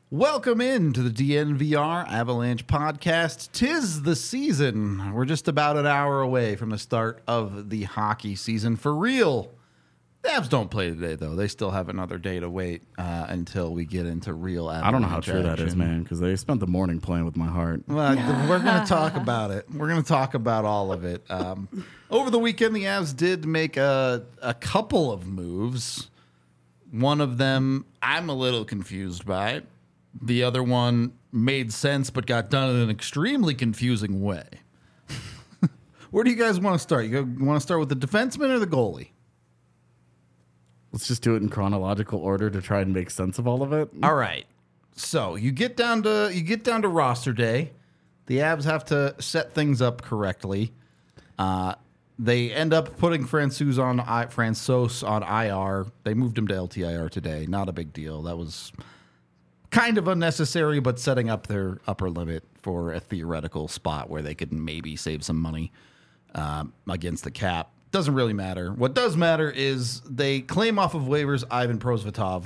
Welcome in to the DNVR Avalanche podcast. 'Tis the season. We're just about an hour away from the start of the hockey season for real. The Avs don't play today, though. They still have another day to wait until we get into real Avalanche I don't know how true that is, action. man, because they spent the morning playing with my heart. Well, we're going to talk about it. We're going to talk about all of it. Over the weekend, the Avs did make a couple of moves. One of them I'm a little confused by. The other one made sense but got done in an extremely confusing way. Where do you guys want to start? You want to start with the defenseman or the goalie? Let's just do it in chronological order to try and make sense of all of it. All right. So you get down to roster day. The Avs have to set things up correctly. They end up putting Francouz on IR. They moved him to LTIR today. Not a big deal. That was kind of unnecessary, but setting up their upper limit for a theoretical spot where they could maybe save some money against the cap. Doesn't really matter. What does matter is they claim off of waivers Ivan Prosvetov,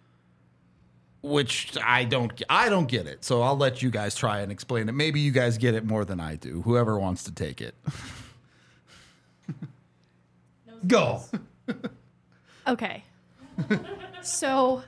which I don't get it. So I'll let you guys try and explain it. Maybe you guys get it more than I do. Whoever wants to take it. Go. Okay. So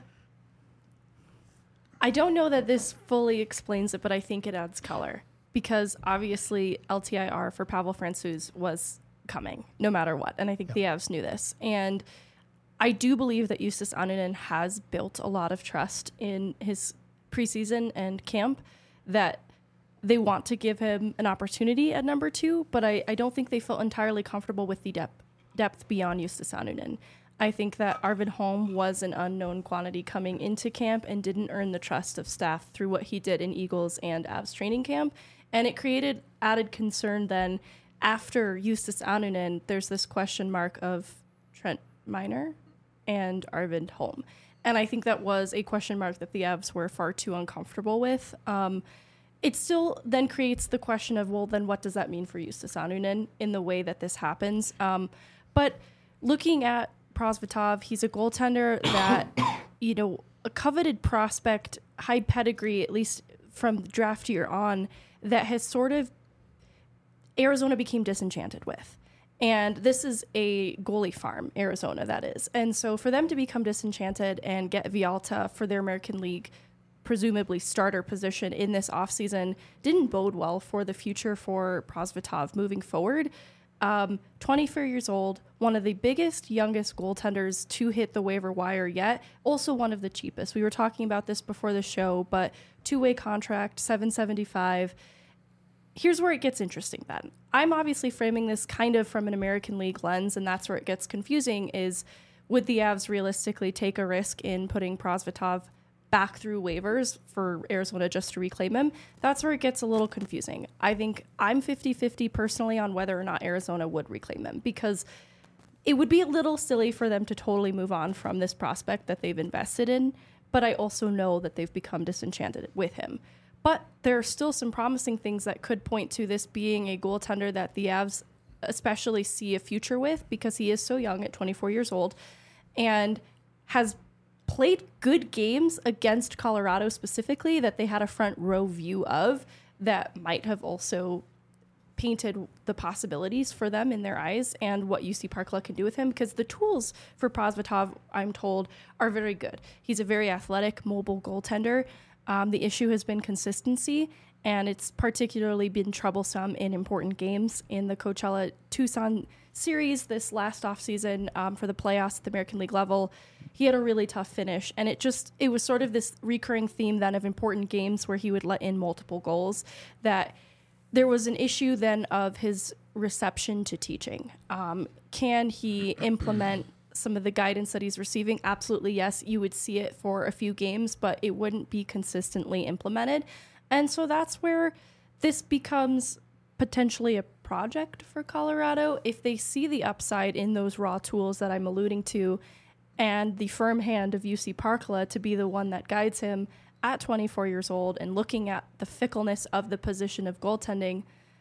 I don't know that this fully explains it, but I think it adds color because obviously LTIR for Pavel Francouz was coming no matter what. And I think the Avs knew this. And I do believe that Justus Annunen has built a lot of trust in his preseason and camp that they want to give him an opportunity at number 2, but I don't think they felt entirely comfortable with the depth beyond Justus Annunen. I think that Arvid Holm was an unknown quantity coming into camp and didn't earn the trust of staff through what he did in Eagles and Avs training camp. And it created added concern then after Justus Annunen, there's this question mark of Trent Miner and Arvid Holm. And I think that was a question mark that the Avs were far too uncomfortable with. It still then creates the question of, well, then what does that mean for Justus Annunen in the way that this happens? But looking at Prosvetov, he's a goaltender that, a coveted prospect, high pedigree, at least from the draft year on, that has sort of Arizona became disenchanted with. And this is a goalie farm, Arizona, that is. And so for them to become disenchanted and get Vialta for their American League, presumably starter position in this offseason, didn't bode well for the future for Prosvetov moving forward. 24 years old, one of the biggest, youngest goaltenders to hit the waiver wire yet, also one of the cheapest. We were talking about this before the show, but two-way contract, $775. Here's where it gets interesting then. I'm obviously framing this kind of from an American League lens, and that's where it gets confusing is, would the Avs realistically take a risk in putting Prosvetov back through waivers for Arizona just to reclaim him? That's where it gets a little confusing. I think I'm 50-50 personally on whether or not Arizona would reclaim him, because it would be a little silly for them to totally move on from this prospect that they've invested in, but I also know that they've become disenchanted with him. But there are still some promising things that could point to this being a goaltender that the Avs especially see a future with, because he is so young at 24 years old and has played good games against Colorado specifically that they had a front row view of that might have also painted the possibilities for them in their eyes and what UC Parkla can do with him, because the tools for Prosvetov, I'm told, are very good. He's a very athletic, mobile goaltender. The issue has been consistency, and it's particularly been troublesome in important games in the Coachella Tucson series this last offseason for the playoffs at the American League level. He had a really tough finish, and it was sort of this recurring theme then of important games where he would let in multiple goals, that there was an issue then of his reception to teaching. Can he implement some of the guidance that he's receiving? Absolutely, yes. You would see it for a few games, but it wouldn't be consistently implemented. And so that's where this becomes potentially a project for Colorado. If they see the upside in those raw tools that I'm alluding to, and the firm hand of UC Parkla to be the one that guides him at 24 years old and looking at the fickleness of the position of goaltending,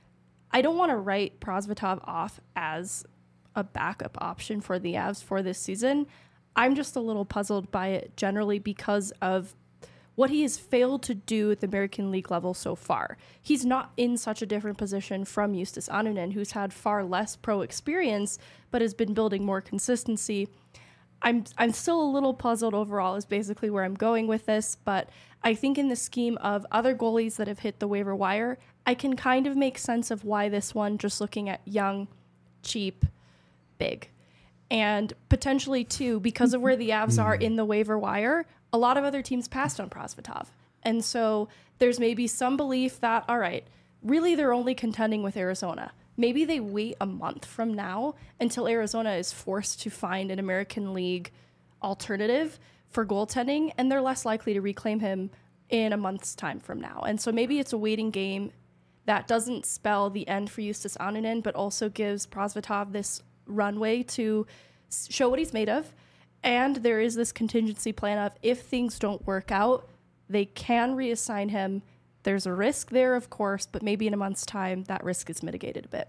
I don't want to write Prosvetov off as a backup option for the Avs for this season. I'm just a little puzzled by it generally because of what he has failed to do at the American League level so far. He's not in such a different position from Justus Annunen, who's had far less pro experience, but has been building more consistency. I'm still a little puzzled overall is basically where I'm going with this, but I think in the scheme of other goalies that have hit the waiver wire, I can kind of make sense of why this one, just looking at young, cheap, big. And potentially, too, because of where the Avs are in the waiver wire, a lot of other teams passed on Prosvetov. And so there's maybe some belief that, all right, really they're only contending with Arizona. Maybe they wait a month from now until Arizona is forced to find an American League alternative for goaltending, and they're less likely to reclaim him in a month's time from now. And so maybe it's a waiting game that doesn't spell the end for Justus Annunen, but also gives Prosvetov this runway to show what he's made of. And there is this contingency plan of if things don't work out, they can reassign him. There's a risk there, of course, but maybe in a month's time, that risk is mitigated a bit.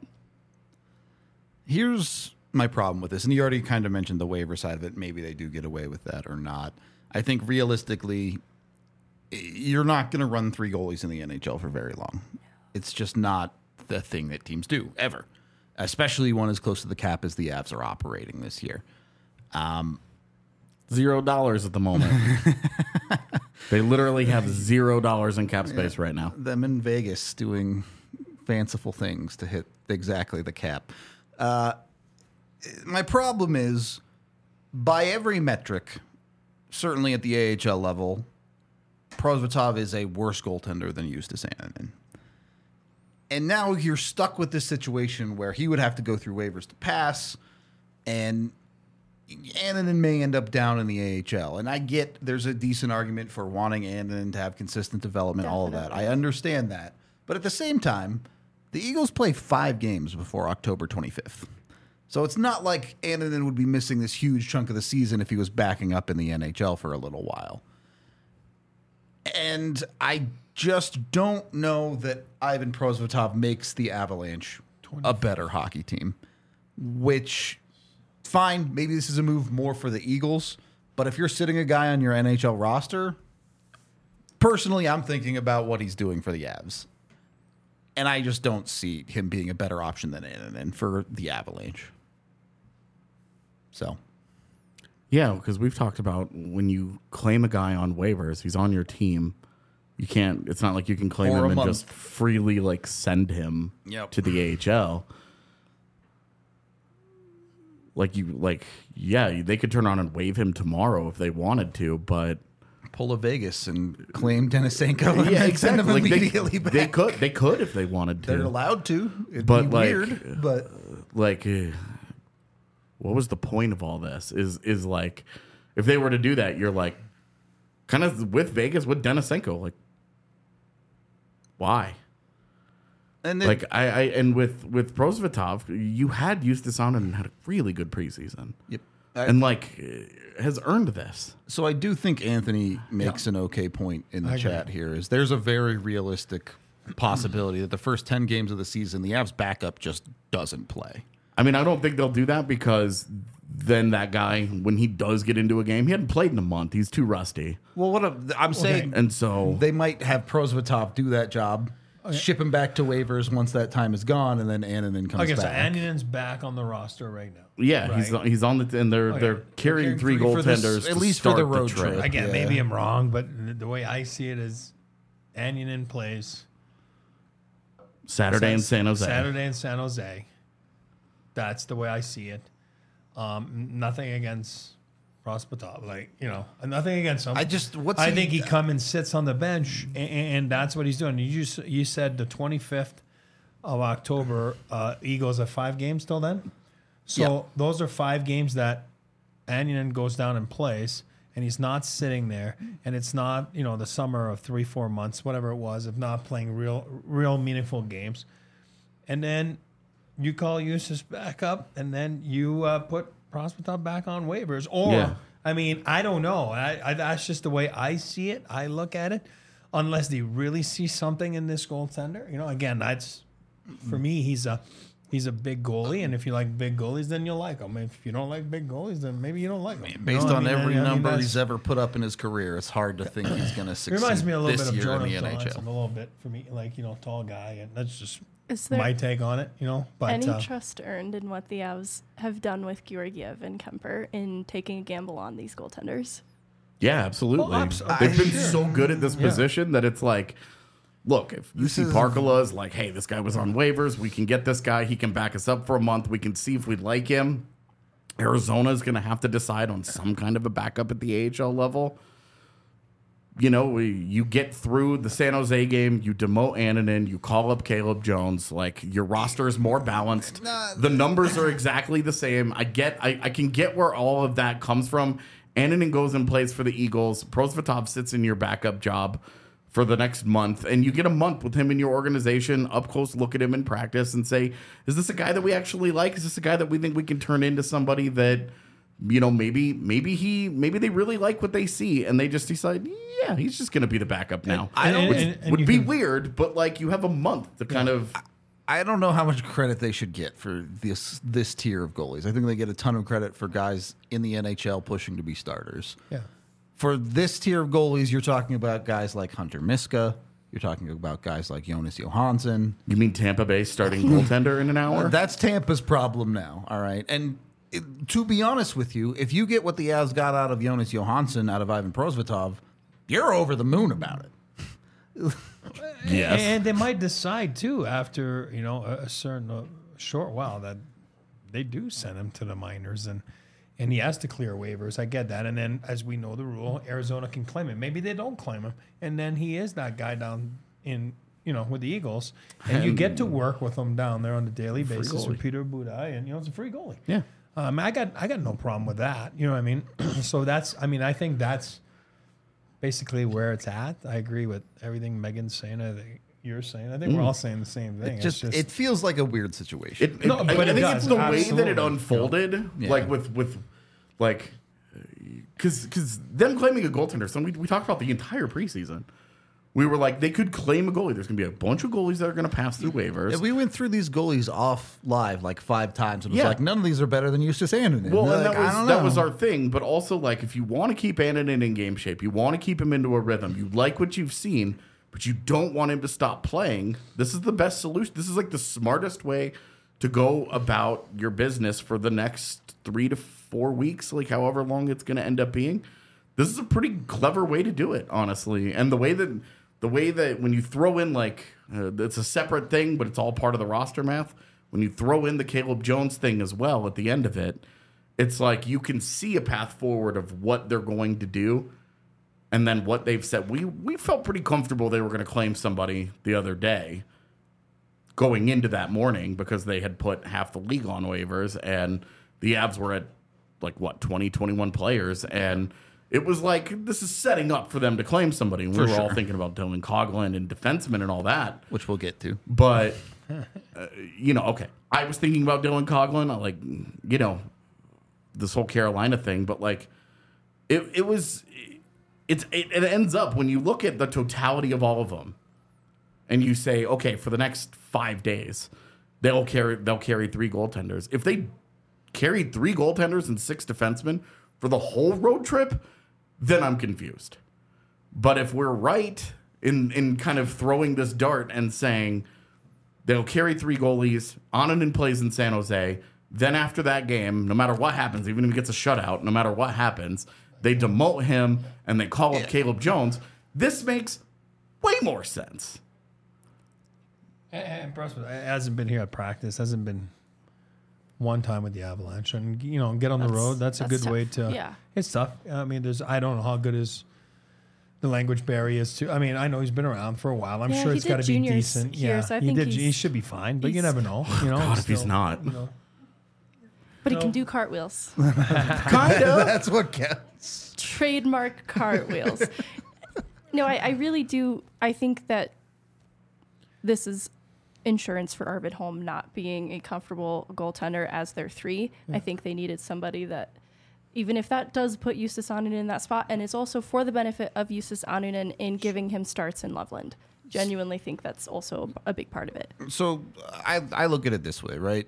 Here's my problem with this, and you already kind of mentioned the waiver side of it. Maybe they do get away with that or not. I think realistically, you're not going to run 3 goalies in the NHL for very long. It's just not the thing that teams do, ever. Especially one as close to the cap as the Avs are operating this year. $0 at the moment. They literally have $0 in cap space right now. Them in Vegas doing fanciful things to hit exactly the cap. My problem is, by every metric, certainly at the AHL level, Prosvetov is a worse goaltender than Justus Annunen. And now you're stuck with this situation where he would have to go through waivers to pass, and Annunen may end up down in the AHL. And I get there's a decent argument for wanting Annunen to have consistent development, all of that. I understand that. But at the same time, the Eagles play 5 games before October 25th. So it's not like Annunen would be missing this huge chunk of the season if he was backing up in the NHL for a little while. And I just don't know that Ivan Prosvetov makes the Avalanche a better hockey team, which, fine, maybe this is a move more for the Eagles, but if you're sitting a guy on your NHL roster, personally, I'm thinking about what he's doing for the Avs. And I just don't see him being a better option than Annunen for the Avalanche. So, yeah, because we've talked about when you claim a guy on waivers, he's on your team. You can't. It's not like you can claim For a him and month. just freely like send him to the AHL. Yeah, they could turn on and waive him tomorrow if they wanted to, but pull a Vegas and claim Denisenko and then send him immediately back. They could if they wanted to. They're allowed to. It'd But, be like, weird, but what was the point of all this? Is like, if they were to do that, you're like, kind of with Vegas with Denisenko, like, why? and then, Like and with Prosvetov, you had Justus Annunen and had a really good preseason, yep. and has earned this. So I do think Anthony makes an okay point in the chat here. Is there's a very realistic possibility that the first 10 games of the season, the Avs backup just doesn't play. I mean, I don't think they'll do that because then that guy, when he does get into a game, he hadn't played in a month. He's too rusty, Well, what I'm saying, and so they might have Prosvetov do that job, ship him back to waivers once that time is gone, and then Annunen comes Okay, so back. Annunen's back on the roster right now. yeah, Right. he's on the and they're carrying 3 for this- goaltenders at to least for the start road trade. trip. Again, Yeah. maybe I'm wrong, but the way I see it is Annunen plays Saturday in San Jose. Saturday in San Jose. That's the way I see it. Nothing against Prosvetov, nothing against him. I think he come and sits on the bench, and that's what he's doing. You said the 25th of October, Eagles have 5 games till then. So those are 5 games that Annunen goes down and plays, and he's not sitting there, and it's not the summer of 3-4 months, whatever it was, of not playing real meaningful games, and then you call Justus back up, and then you put Prosvetov back on waivers. Or, I mean, I don't know. That's just the way I see it. I look at it. Unless they really see something in this goaltender. Again, that's, for me, he's a he's a big goalie, and if you like big goalies, then you'll like him. If you don't like big goalies, then maybe you don't like him. Based on every number he's ever put up in his career, it's hard to think he's going to succeed. Reminds me a little this bit of year in Jonathan the NHL. A little bit for me, like tall guy, and that's just Is there my take on it. But any trust earned in what the Avs have done with Georgiev and Kemper in taking a gamble on these goaltenders? Yeah, absolutely. Well, They've been so good at this position that it's like, look, if UC Parkala is like, hey, this guy was on waivers, we can get this guy, he can back us up for a month, we can see if we like him. Arizona is going to have to decide on some kind of a backup at the AHL level. You get through the San Jose game, you demote Annunen, you call up Caleb Jones, like your roster is more balanced. The numbers are exactly the same. I can get where all of that comes from. Annunen goes and plays for the Eagles. Prosvetov sits in your backup job for the next month, and you get a month with him in your organization, up close, look at him in practice and say, is this a guy that we actually like? Is this a guy that we think we can turn into somebody that, maybe they really like what they see, and they just decide, yeah, he's just going to be the backup now. Which would be weird, but like you have a month to kind of... I don't know how much credit they should get for this tier of goalies. I think they get a ton of credit for guys in the NHL pushing to be starters. Yeah. For this tier of goalies, you're talking about guys like Hunter Miska. You're talking about guys like Jonas Johansson. You mean Tampa Bay starting goaltender in an hour? That's Tampa's problem now, all right? And to be honest with you, if you get what the Avs got out of Jonas Johansson, out of Ivan Prosvetov, you're over the moon about it. Yes. And they might decide, too, after, a certain short while that they do send him to the minors and he has to clear waivers. I get that. And then, as we know the rule, Arizona can claim him. Maybe they don't claim him. And then he is that guy down in, with the Eagles. And you get to work with him down there on a daily basis with Peter Budaj. And, it's a free goalie. Yeah. I got no problem with that. You know what I mean? So I think that's basically where it's at. I agree with everything Megan's saying. I think you're saying. I think we're all saying the same thing. It feels like a weird situation. I think it's the way that it unfolded, like with like, because them claiming a goaltender. So we talked about the entire preseason. We were like, they could claim a goalie. There's going to be a bunch of goalies that are going to pass through waivers. Yeah, we went through these goalies off live like 5 times. And it was like, none of these are better than Justus Annunen. Well, and that was our thing. But also, like, if you want to keep Annunen in game shape, you want to keep him into a rhythm, you like what you've seen, but you don't want him to stop playing, this is the best solution. This is like the smartest way to go about your business for the next 3 to 4 weeks, like however long it's going to end up being. This is a pretty clever way to do it, honestly. And the way that when you throw in it's a separate thing, but it's all part of the roster math. When you throw in the Caleb Jones thing as well at the end of it, it's like you can see a path forward of what they're going to do, and then what they've said. We felt pretty comfortable they were going to claim somebody the other day, going into that morning, because they had put half the league on waivers, and the Avs were at 20, 21 players, and it was like, this is setting up for them to claim somebody. And we were all thinking about Dylan Coghlan and defensemen and all that. Which we'll get to. But, okay. I was thinking about Dylan Coghlan. I this whole Carolina thing. But, it ends up, when you look at the totality of all of them, and you say, okay, for the next 5 days, they'll carry 3 goaltenders. If they carried 3 goaltenders and 6 defensemen for the whole road trip, then I'm confused. But if we're right in kind of throwing this dart and saying they'll carry 3 goalies, Annunen plays in San Jose, then after that game, no matter what happens, even if he gets a shutout, no matter what happens, they demote him and they call up Caleb Jones, this makes way more sense. And Bruce hasn't been here at practice, hasn't been one time with the Avalanche, and get on the road. That's a good tough. way to. Yeah, it's tough. I mean, I don't know how good the language barrier is too. I mean, I know he's been around for a while. I'm sure it's got to be decent. Here, so I think he should be fine, but you never know. God, if he's not. But he can do cartwheels. Kind of. That's what counts. Trademark cartwheels. No, I really do. I think that this is insurance for Arvid Holm not being a comfortable goaltender as their 3. I think they needed somebody that, even if that does put Justus Annunen in that spot, and it's also for the benefit of Justus Annunen in giving him starts in Loveland. genuinely think that's also a big part of it. So I look at it this way, right?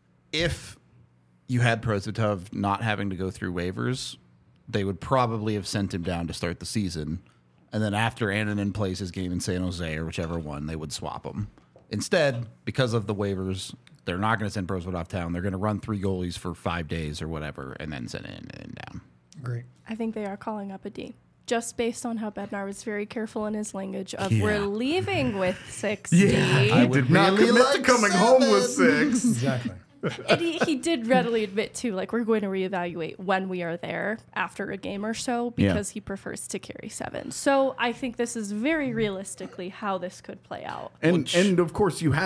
If you had Prosvetov not having to go through waivers, they would probably have sent him down to start the season. And then after Annunen plays his game in San Jose or whichever one, they would swap him. Instead, because of the waivers, they're not going to send Prosvetov down. They're going to run 3 goalies for 5 days or whatever and then send Annunen down. Great. I think they are calling up a D. Just based on how Bednar was very careful in his language of we're leaving with 6 D. I did not commit to coming home with 6. Exactly. And he did readily admit, too, like, we're going to reevaluate when we are there after a game or so because he prefers to carry 7. So I think this is very realistically how this could play out. And of course, you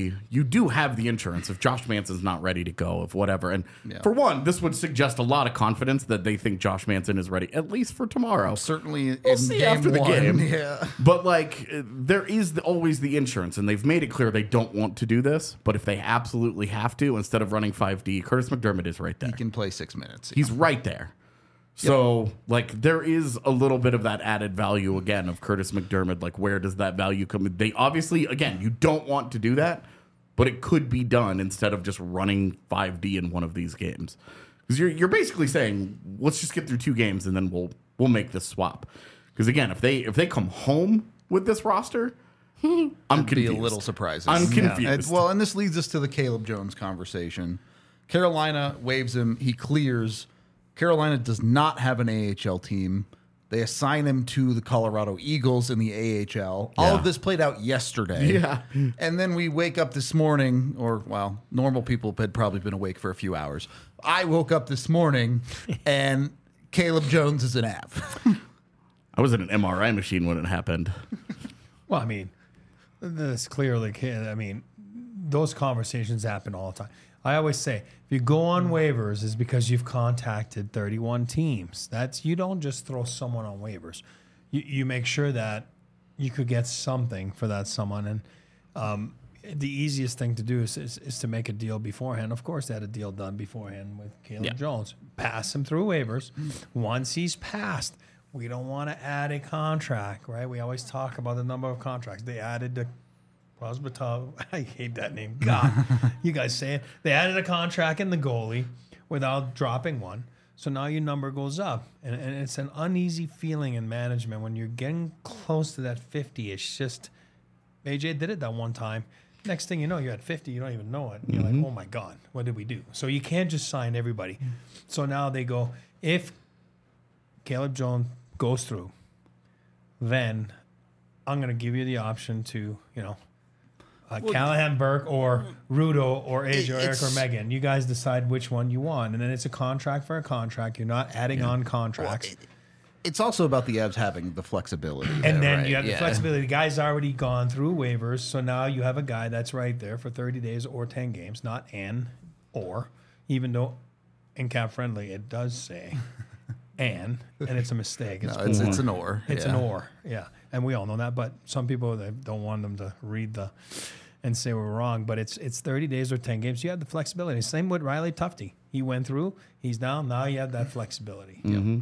do have the insurance if Josh Manson's not ready to go, if whatever. And for one, this would suggest a lot of confidence that they think Josh Manson is ready, at least for tomorrow. Certainly We'll in see game after the 1. game. Yeah. But, like, there is always the insurance, and they've made it clear they don't want to do this. But if they absolutely have to, instead of running 5D, Curtis McDermott is right there. He can play 6 minutes. He's right there. So, like, there is a little bit of that added value, again, of Curtis McDermott. Like, where does that value come in? They obviously, again, you don't want to do that, but it could be done instead of just running 5D in one of these games. Because you're basically saying, let's just get through 2 games and then we'll make this swap. Because, again, if they come home with this roster, I'm confused. Be a little surprising. I'm confused. And this leads us to the Caleb Jones conversation. Carolina waives him. He clears. Carolina does not have an AHL team. They assign him to the Colorado Eagles in the AHL. All of this played out yesterday. Yeah. And then we wake up this morning, or, well, normal people had probably been awake for a few hours. I woke up this morning, and Caleb Jones is an Av. I was in an MRI machine when it happened. Well, I mean, that's clearly, I mean, those conversations happen all the time. I always say, if you go on waivers, it's because you've contacted 31 teams. You don't just throw someone on waivers. You make sure that you could get something for that someone. And the easiest thing to do is to make a deal beforehand. Of course, they had a deal done beforehand with Caleb Jones. Pass him through waivers. Once he's passed, we don't want to add a contract, right? We always talk about the number of contracts. They added the Prosvetov. I hate that name. God, you guys say it. They added a contract in the goalie without dropping one. So now your number goes up. And it's an uneasy feeling in management when you're getting close to that 50. It's just, AJ did it that one time. Next thing you know, you're at 50. You don't even know it. You're like, oh, my God, what did we do? So you can't just sign everybody. So now they go, if Caleb Jones goes through, then I'm going to give you the option to, Callahan Burke or Rudo or AJ or Eric or Megan. You guys decide which one you want. And then it's a contract for a contract. You're not adding on contracts. Well, it's also about the Avs having the flexibility. And then you have the flexibility. The guy's already gone through waivers. So now you have a guy that's right there for 30 days or 10 games, not or, even though in Cap Friendly it does say and it's a mistake. It's an or. It's an or, yeah. And we all know that, but some people, they don't want them to read and say we're wrong, but it's 30 days or 10 games. You have the flexibility. Same with Riley Tufte. He went through, he's down, now you have that flexibility. Mm-hmm.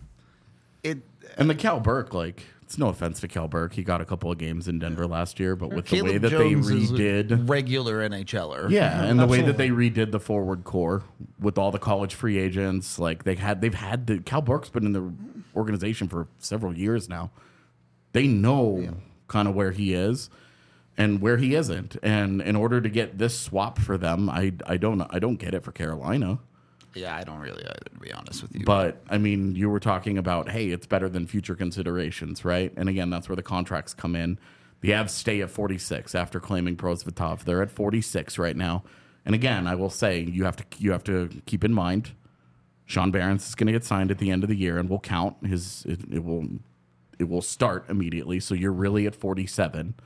And the Cal Burke, it's no offense to Cal Burke. He got a couple of games in Denver last year, but with Caleb the way that Jones they redid regular NHLer. Yeah, and the way that they redid the forward core with all the college free agents, Cal Burke's been in the organization for several years now. They know kind of where he is and where he isn't. And in order to get this swap for them, I don't get it for Carolina. Yeah, I don't really either, to be honest with you. But, I mean, you were talking about, hey, it's better than future considerations, right? And again, that's where the contracts come in. The Avs stay at 46 after claiming Prosvetov. They're at 46 right now. And again, I will say, you have to keep in mind, Sean Behrens is going to get signed at the end of the year, and we'll count it will start immediately. So you're really at 47.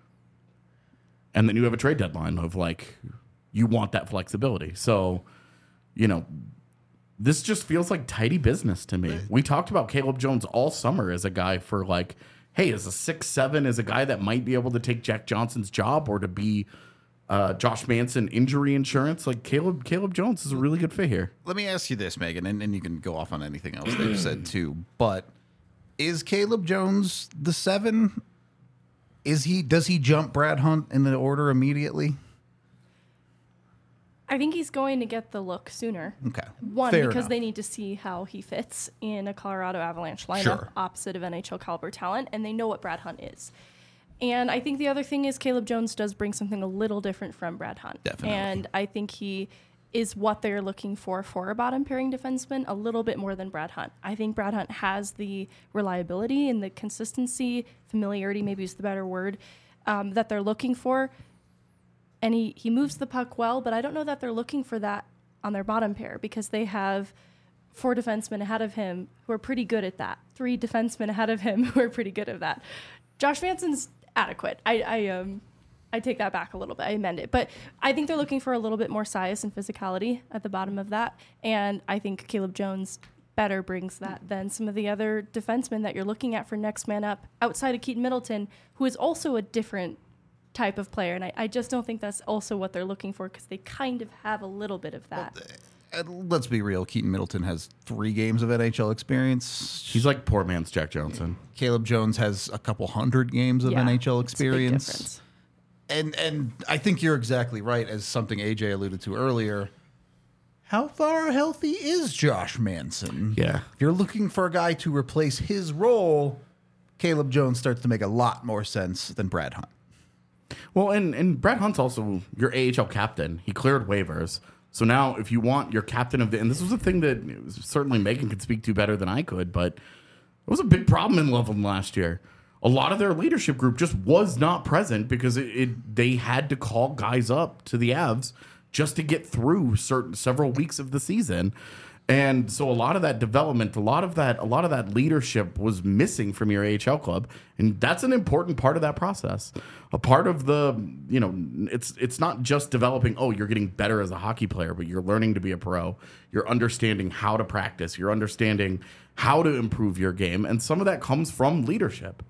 And then you have a trade deadline of you want that flexibility. So, this just feels like tidy business to me. We talked about Caleb Jones all summer as a guy for hey, as a 6'7", as a guy that might be able to take Jack Johnson's job or to be Josh Manson injury insurance. Caleb Jones is a really good fit here. Let me ask you this, Megan, and you can go off on anything else they've said too, but is Caleb Jones the 7 Does he jump Brad Hunt in the order immediately? I think he's going to get the look sooner. Okay. One, Fair because enough. they need to see how he fits in a Colorado Avalanche lineup opposite of NHL caliber talent, and they know what Brad Hunt is. And I think the other thing is Caleb Jones does bring something a little different from Brad Hunt. Definitely. And I think he is what they're looking for a bottom pairing defenseman a little bit more than Brad Hunt. I think Brad Hunt has the reliability and the consistency, familiarity maybe is the better word, that they're looking for. And he moves the puck well, but I don't know that they're looking for that on their bottom pair because they have 4 defensemen ahead of him who are pretty good at that. 3 defensemen ahead of him who are pretty good at that. Josh Manson's adequate. I take that back a little bit. I amend it. But I think they're looking for a little bit more size and physicality at the bottom of that. And I think Caleb Jones better brings that than some of the other defensemen that you're looking at for next man up outside of Keaton Middleton, who is also a different type of player. And I just don't think that's also what they're looking for because they kind of have a little bit of that. Let's be real. Keaton Middleton has 3 games of NHL experience. He's like poor man's Jack Johnson. Caleb Jones has a couple hundred games of NHL experience. And I think you're exactly right, as something AJ alluded to earlier. How far healthy is Josh Manson? Yeah. If you're looking for a guy to replace his role, Caleb Jones starts to make a lot more sense than Brad Hunt. Well, and Brad Hunt's also your AHL captain. He cleared waivers. So now if you want your captain of the... And this was a thing that certainly Megan could speak to better than I could, but it was a big problem in Loveland last year. A lot of their leadership group just was not present because they had to call guys up to the Avs just to get through several weeks of the season. And so a lot of that development, a lot of that leadership was missing from your AHL club, and that's an important part of that process. A part of the, it's not just developing, you're getting better as a hockey player, but you're learning to be a pro. You're understanding how to practice. You're understanding how to improve your game, and some of that comes from leadership.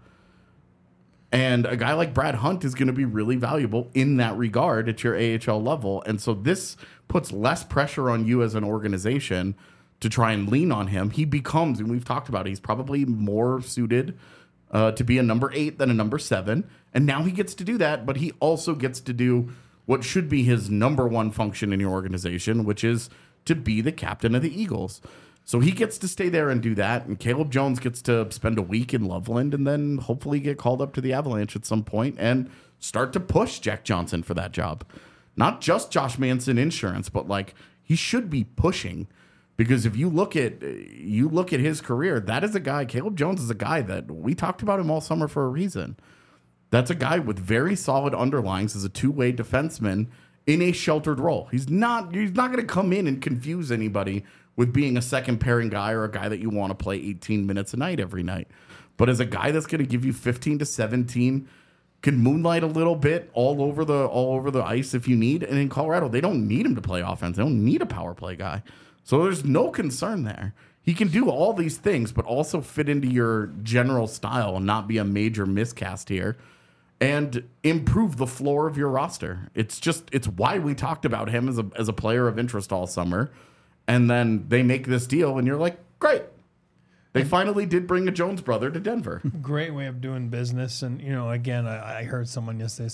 And a guy like Brad Hunt is going to be really valuable in that regard at your AHL level. And so this puts less pressure on you as an organization to try and lean on him. He becomes, and we've talked about it, he's probably more suited to be a number 8 than a number 7. And now he gets to do that, but he also gets to do what should be his number 1 function in your organization, which is to be the captain of the Eagles. So he gets to stay there and do that, and Caleb Jones gets to spend a week in Loveland and then hopefully get called up to the Avalanche at some point and start to push Jack Johnson for that job. Not just Josh Manson insurance, but he should be pushing, because if you look at his career, that is a guy. Caleb Jones is a guy that we talked about him all summer for a reason. That's a guy with very solid underlines as a 2-way defenseman in a sheltered role. He's not going to come in and confuse anybody with being a second pairing guy or a guy that you want to play 18 minutes a night every night. But as a guy that's going to give you 15 to 17, can moonlight a little bit all over the ice if you need. And in Colorado, they don't need him to play offense. They don't need a power play guy. So there's no concern there. He can do all these things, but also fit into your general style and not be a major miscast here and improve the floor of your roster. It's why we talked about him as a player of interest all summer. And then they make this deal, and you're like, great. They finally did bring a Jones brother to Denver. Great way of doing business. And, again, I heard someone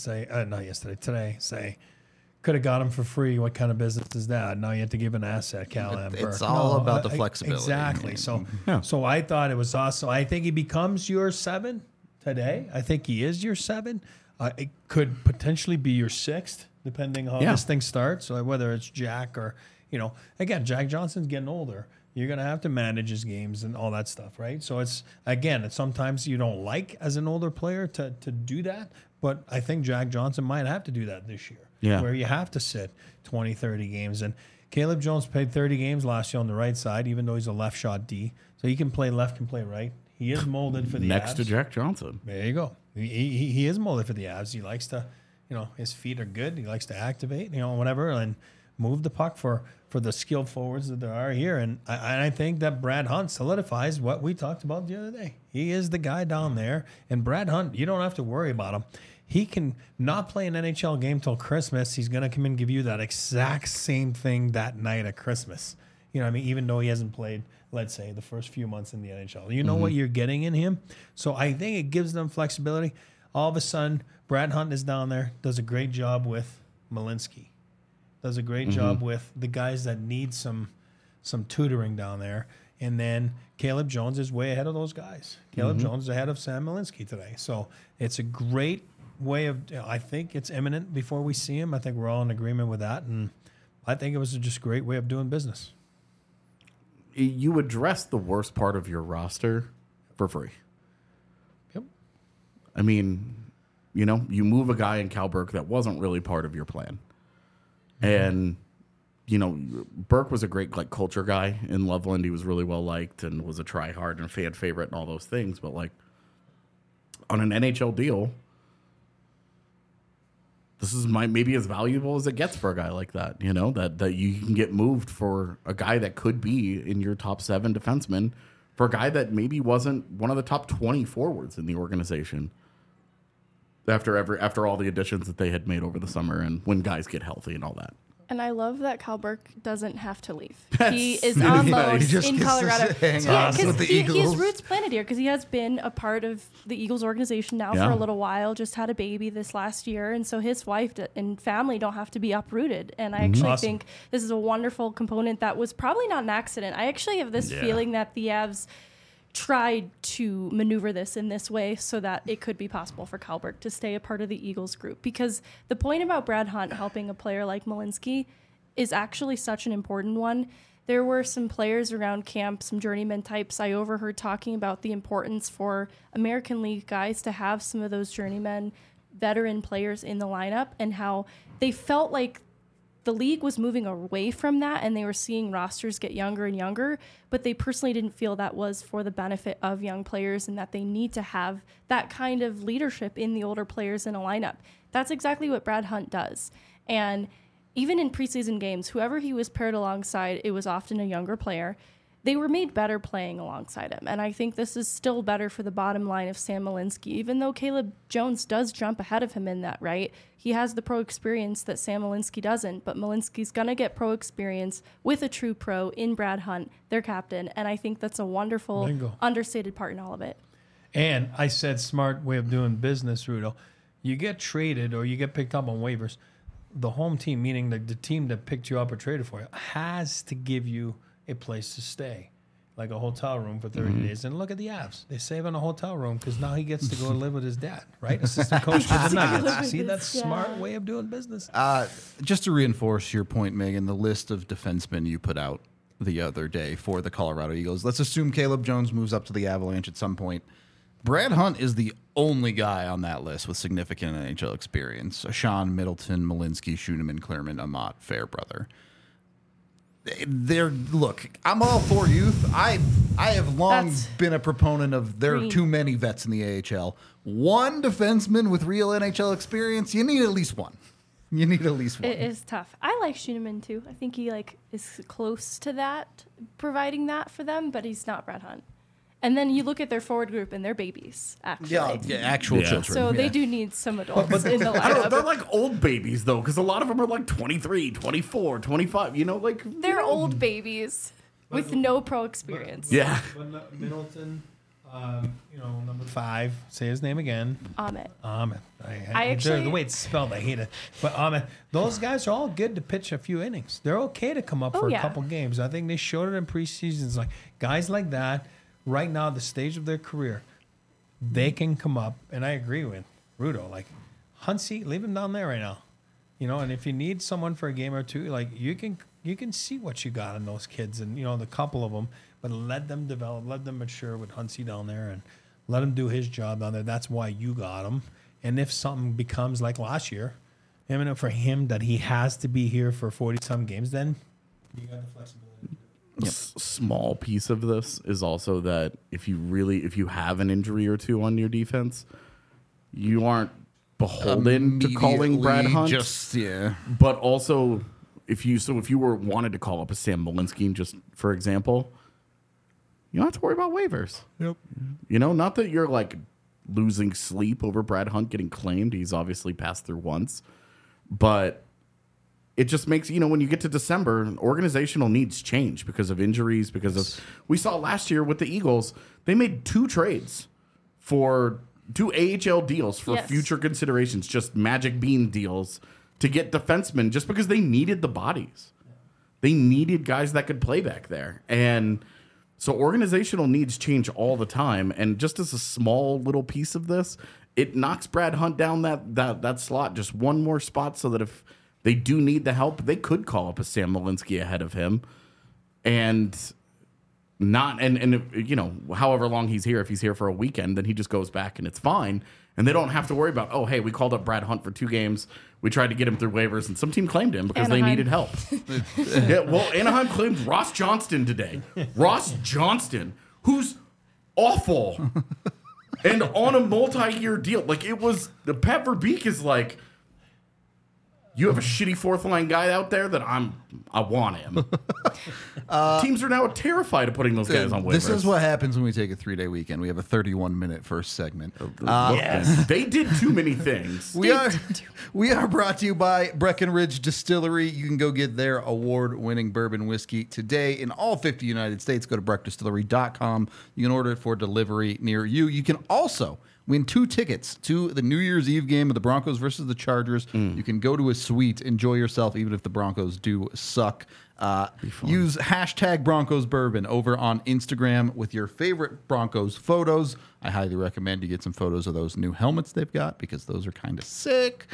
today say, could have got him for free. What kind of business is that? Now you have to give an asset, Cal Amber. It's all about the flexibility. Exactly. So I thought it was awesome. I think he becomes your 7 today. I think he is your 7. It could potentially be your 6th, depending on how this thing starts. So whether it's Jack or... again, Jack Johnson's getting older. You're going to have to manage his games and all that stuff, right? So it's sometimes you don't like as an older player to do that, but I think Jack Johnson might have to do that this year, where you have to sit 20, 30 games. And Caleb Jones played 30 games last year on the right side, even though he's a left shot D. So he can play left, can play right. He is molded for the Next Avs. to Jack Johnson. There you go. He is molded for the Avs. He likes to, his feet are good. He likes to activate, whatever, and move the puck for the skilled forwards that there are here. And I think that Brad Hunt solidifies what we talked about the other day. He is the guy down there. And Brad Hunt, you don't have to worry about him. He can not play an NHL game till Christmas. He's going to come in and give you that exact same thing that night at Christmas. Even though he hasn't played, let's say, the first few months in the NHL. You know what you're getting in him. So I think it gives them flexibility. all of a sudden, Brad Hunt is down there, does a great job with Malinsky, does a great job with the guys that need some tutoring down there. And then Caleb Jones is way ahead of those guys. Caleb Jones is ahead of Sam Malinsky today. So it's a great way of, I think it's imminent before we see him. I think we're all in agreement with that. And I think it was just a great way of doing business. You address the worst part of your roster for free. Yep. I mean, you move a guy in Cal Burke that wasn't really part of your plan. And, Burke was a great culture guy in Loveland. He was really well liked and was a try-hard and a fan favorite and all those things. But, on an NHL deal, this is maybe as valuable as it gets for a guy like that, that you can get moved for a guy that could be in your top 7 defensemen for a guy that maybe wasn't one of the top 20 forwards in the organization after all the additions that they had made over the summer and when guys get healthy and all that. And I love that Cal Burke doesn't have to leave. He is on loan in Colorado. Because he has roots planted here because he has been a part of the Eagles organization now for a little while, just had a baby this last year. And so his wife and family don't have to be uprooted. And I actually think this is a wonderful component that was probably not an accident. I actually have this feeling that the Avs tried to maneuver this in this way so that it could be possible for Cal Burke to stay a part of the Eagles group. Because the point about Brad Hunt helping a player like Malinsky is actually such an important one. There were some players around camp, some journeyman types I overheard talking about the importance for American League guys to have some of those journeyman veteran players in the lineup and how they felt like the league was moving away from that and they were seeing rosters get younger and younger, but they personally didn't feel that was for the benefit of young players and that they need to have that kind of leadership in the older players in a lineup. That's exactly what Brad Hunt does. And even in preseason games, whoever he was paired alongside, it was often a younger player. They were made better playing alongside him. And I think this is still better for the bottom line of Sam Malinsky, even though Caleb Jones does jump ahead of him in that, right? He has the pro experience that Sam Malinsky doesn't, but Malinsky's going to get pro experience with a true pro in Brad Hunt, their captain. And I think that's a wonderful, understated part in all of it. And I said smart way of doing business, Rudo. You get traded or you get picked up on waivers. The home team, meaning the team that picked you up or traded for you, has to give you a place to stay, like a hotel room for 30 days. And look at the Avs. They save on a hotel room because now he gets to go live with his dad, right? Assistant coach for the Nuggets. See, that's a smart way of doing business. Just to reinforce your point, Megan, the list of defensemen you put out the other day for the Colorado Eagles, let's assume Caleb Jones moves up to the Avalanche at some point. Brad Hunt is the only guy on that list with significant NHL experience. Sean, Middleton, Malinsky, Schoenemann, Clearman, Amat, Fairbrother. Look, I'm all for youth. I have long been a proponent of there are too many vets in the AHL. One defenseman with real NHL experience, you need at least one. It is tough. I like Schoenemann too. I think he is close to that, providing that for them, but he's not Brad Hunt. And then you look at their forward group and they're babies, actually. Actual children. So they do need some adults in the lineup. They're like old babies, though, because a lot of them are 23, 24, 25, They're old babies with no pro experience. But Middleton, number 5, say his name again. Ahmet. The way it's spelled, I hate it. But Ahmet, those guys are all good to pitch a few innings. They're okay to come up for a couple games. I think they showed it in preseasons. Like guys like that, right now, the stage of their career, they can come up, and I agree with Rudo. Like Huntsy, leave him down there right now. And if you need someone for a game or two, you can see what you got in those kids, and the couple of them, but let them develop, let them mature with Huntsy down there, and let him do his job down there. That's why you got him. And if something becomes like last year, for him that he has to be here for 40-some games, then you got the flexibility. Small piece of this is also that if you have an injury or two on your defense, you aren't beholden to calling Brad Hunt. But also, if you wanted to call up a Sam Malinsky, just for example, you don't have to worry about waivers. Yep. Not that you're losing sleep over Brad Hunt getting claimed. He's obviously passed through once, but it just makes, when you get to December, organizational needs change because of injuries, we saw last year with the Eagles, they made 2 trades for do AHL deals for future considerations, just Magic Bean deals to get defensemen just because they needed the bodies. They needed guys that could play back there. And so organizational needs change all the time. And just as a small little piece of this, it knocks Brad Hunt down that slot just one more spot so that if they do need the help, they could call up a Sam Malinsky ahead of him. And you know, however long he's here, if he's here for a weekend, then he just goes back and it's fine. And they don't have to worry about, oh, hey, we called up Brad Hunt for 2 games. We tried to get him through waivers, and some team claimed him because they needed help. Yeah, well, Anaheim claimed Ross Johnston today. Ross Johnston, who's awful and on a multi-year deal. Like, it was, the Pat Verbeek is like, you have a shitty fourth line guy out there that I want him. Teams are now terrified of putting those guys on waivers. This is what happens when we take a 3-day weekend. We have a 31-minute first segment. Yes, they did too many things. We are brought to you by Breckenridge Distillery. You can go get their award-winning bourbon whiskey today in all 50 United States. Go to breckdistillery.com. You can order it for delivery near you. You can also win 2 tickets to the New Year's Eve game of the Broncos versus the Chargers. You can go to a suite, enjoy yourself, even if the Broncos do suck. Use hashtag Broncos Bourbon over on Instagram with your favorite Broncos photos. I highly recommend you get some photos of those new helmets they've got because those are kind of sick.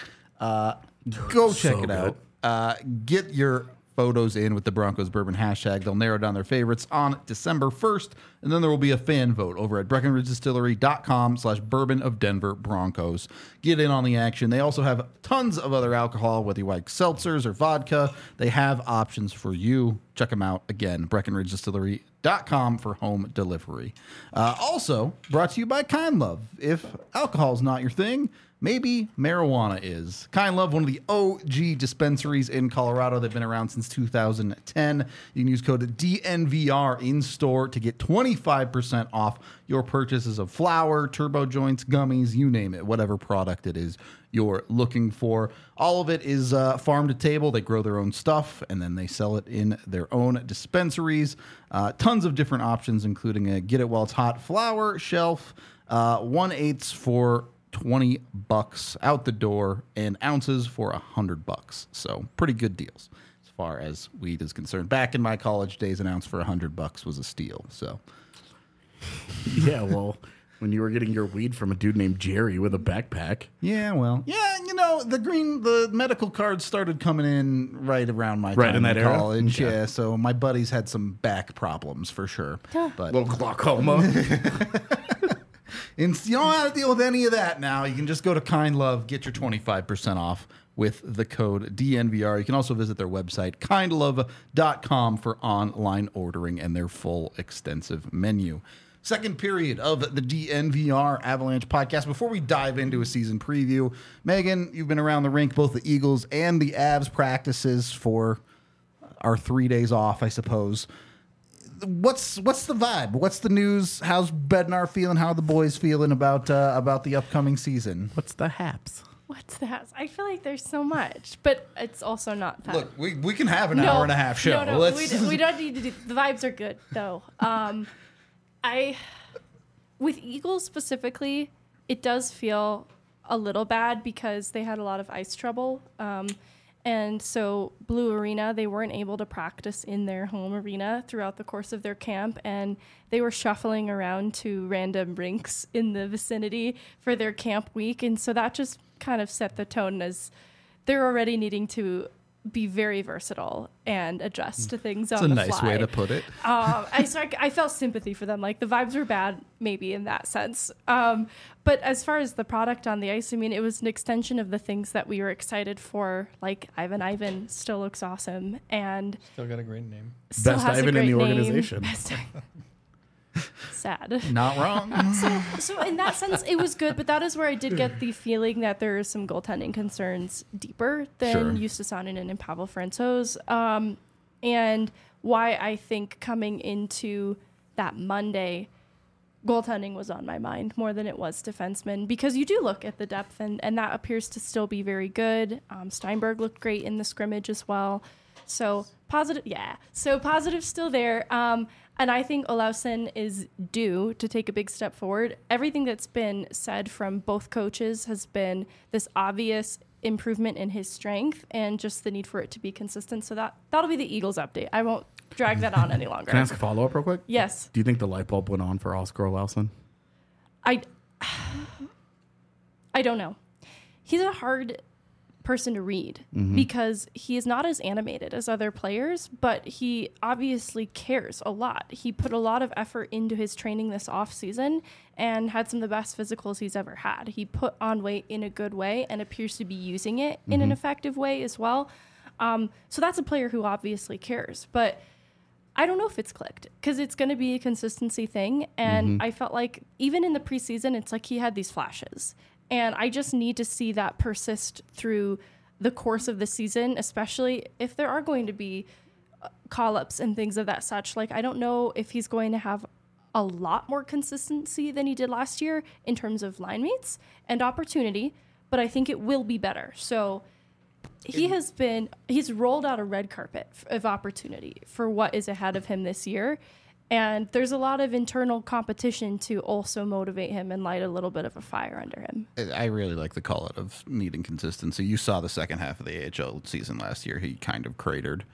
Go check it out. Get your photos in with the Broncos Bourbon hashtag. They'll narrow down their favorites on December 1st, and then there will be a fan vote over at BreckenridgeDistillery.com/Bourbon of Denver Broncos. Get in on the action. They also have tons of other alcohol, whether you like seltzers or vodka. They have options for you. Check them out. Again, BreckenridgeDistillery.com for home delivery. Also brought to you by Kind Love. If alcohol is not your thing, maybe marijuana is. Kind Love, one of the OG dispensaries in Colorado. They've been around since 2010. You can use code DNVR in store to get 25% off your purchases of flower, turbo joints, gummies, you name it, whatever product it is you're looking for. All of it is farm to table. They grow their own stuff, and then they sell it in their own dispensaries. Tons of different options, including a Get It While It's Hot flower shelf, 1/8 for $20 out the door, and ounces for $100. So pretty good deals as far as weed is concerned. Back in my college days, an ounce for $100 was a steal. So yeah, well, when you were getting your weed from a dude named Jerry with a backpack. Yeah, well, yeah, you know, the medical cards started coming in right around my time in that in era? college. Yeah, so my buddies had some back problems for sure. But Little glaucoma. And you don't have to deal with any of that now. You can just go to Kind Love, get your 25% off with the code DNVR. You can also visit their website, kindlove.com, for online ordering and their full extensive menu. Second period of the DNVR Avalanche podcast. Before we dive into a season preview, Megan, you've been around the rink, both the Eagles and the Avs practices for our 3 days off, I suppose. What's the vibe? What's the news? How's Bednar feeling? How are the boys feeling about the upcoming season? What's the haps? What's that? I feel like there's so much, but it's also not that. Look, we can have an hour and a half show. No, we don't need to do. The vibes are good though. With Eagles specifically, it does feel a little bad because they had a lot of ice trouble. And so Blue Arena, they weren't able to practice in their home arena throughout the course of their camp, and they were shuffling around to random rinks in the vicinity for their camp week. And so that just kind of set the tone as they're already needing to be very versatile and adjust to things on the fly. It's a nice way to put it. I felt sympathy for them. Like, the vibes were bad, maybe, in that sense. But as far as the product on the ice, I mean, it was an extension of the things that we were excited for. Like, Ivan still looks awesome. And still got a great name. Best Ivan in the organization. Sad. Not wrong. So in that sense, it was good, but that is where I did get the feeling that there are some goaltending concerns deeper than Justus Saarinen and Pavel Francouz. And why I think coming into that Monday, goaltending was on my mind more than it was defensemen, because you do look at the depth, and that appears to still be very good. Steinberg looked great in the scrimmage as well. So positive, yeah. So positive still there. And I think Olausson is due to take a big step forward. Everything that's been said from both coaches has been this obvious improvement in his strength and just the need for it to be consistent. So that'll be the Eagles update. I won't drag that on any longer. Can I ask a follow-up real quick? Yes. Do you think the light bulb went on for Oscar Olausson? I don't know. He's a hard person to read because he is not as animated as other players, but he obviously cares a lot. He put a lot of effort into his training this off season and had some of the best physicals he's ever had. He put on weight in a good way and appears to be using it in an effective way as well. So that's a player who obviously cares, but I don't know if it's clicked because it's going to be a consistency thing. And I felt like even in the preseason, it's like he had these flashes. And I just need to see that persist through the course of the season, especially if there are going to be call-ups and things of that such. Like, I don't know if he's going to have a lot more consistency than he did last year in terms of line mates and opportunity, but I think it will be better. So he's rolled out a red carpet of opportunity for what is ahead of him this year. And there's a lot of internal competition to also motivate him and light a little bit of a fire under him. I really like the call out of needing consistency. You saw the second half of the AHL season last year. He kind of cratered.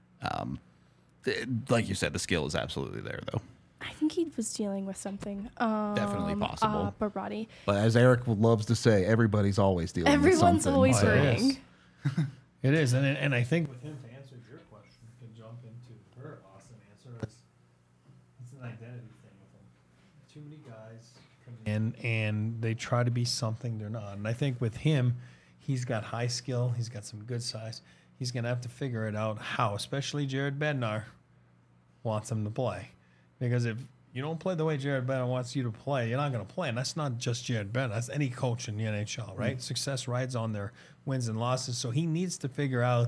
Like you said, the skill is absolutely there, though. I think he was dealing with something. Definitely possible. Barati. But as Eric loves to say, everybody's always dealing with something. Everyone's always hurting. It is. And I think with him, to answer your question, to jump into her awesome answer, it's an identity thing with him. Too many guys come in and they try to be something they're not. And I think with him, he's got high skill. He's got some good size. He's going to have to figure it out how, especially Jared Bednar wants him to play. Because if you don't play the way Jared Bednar wants you to play, you're not going to play. And that's not just Jared Bednar. That's any coach in the NHL, right? Mm-hmm. Success rides on their wins and losses. So he needs to figure out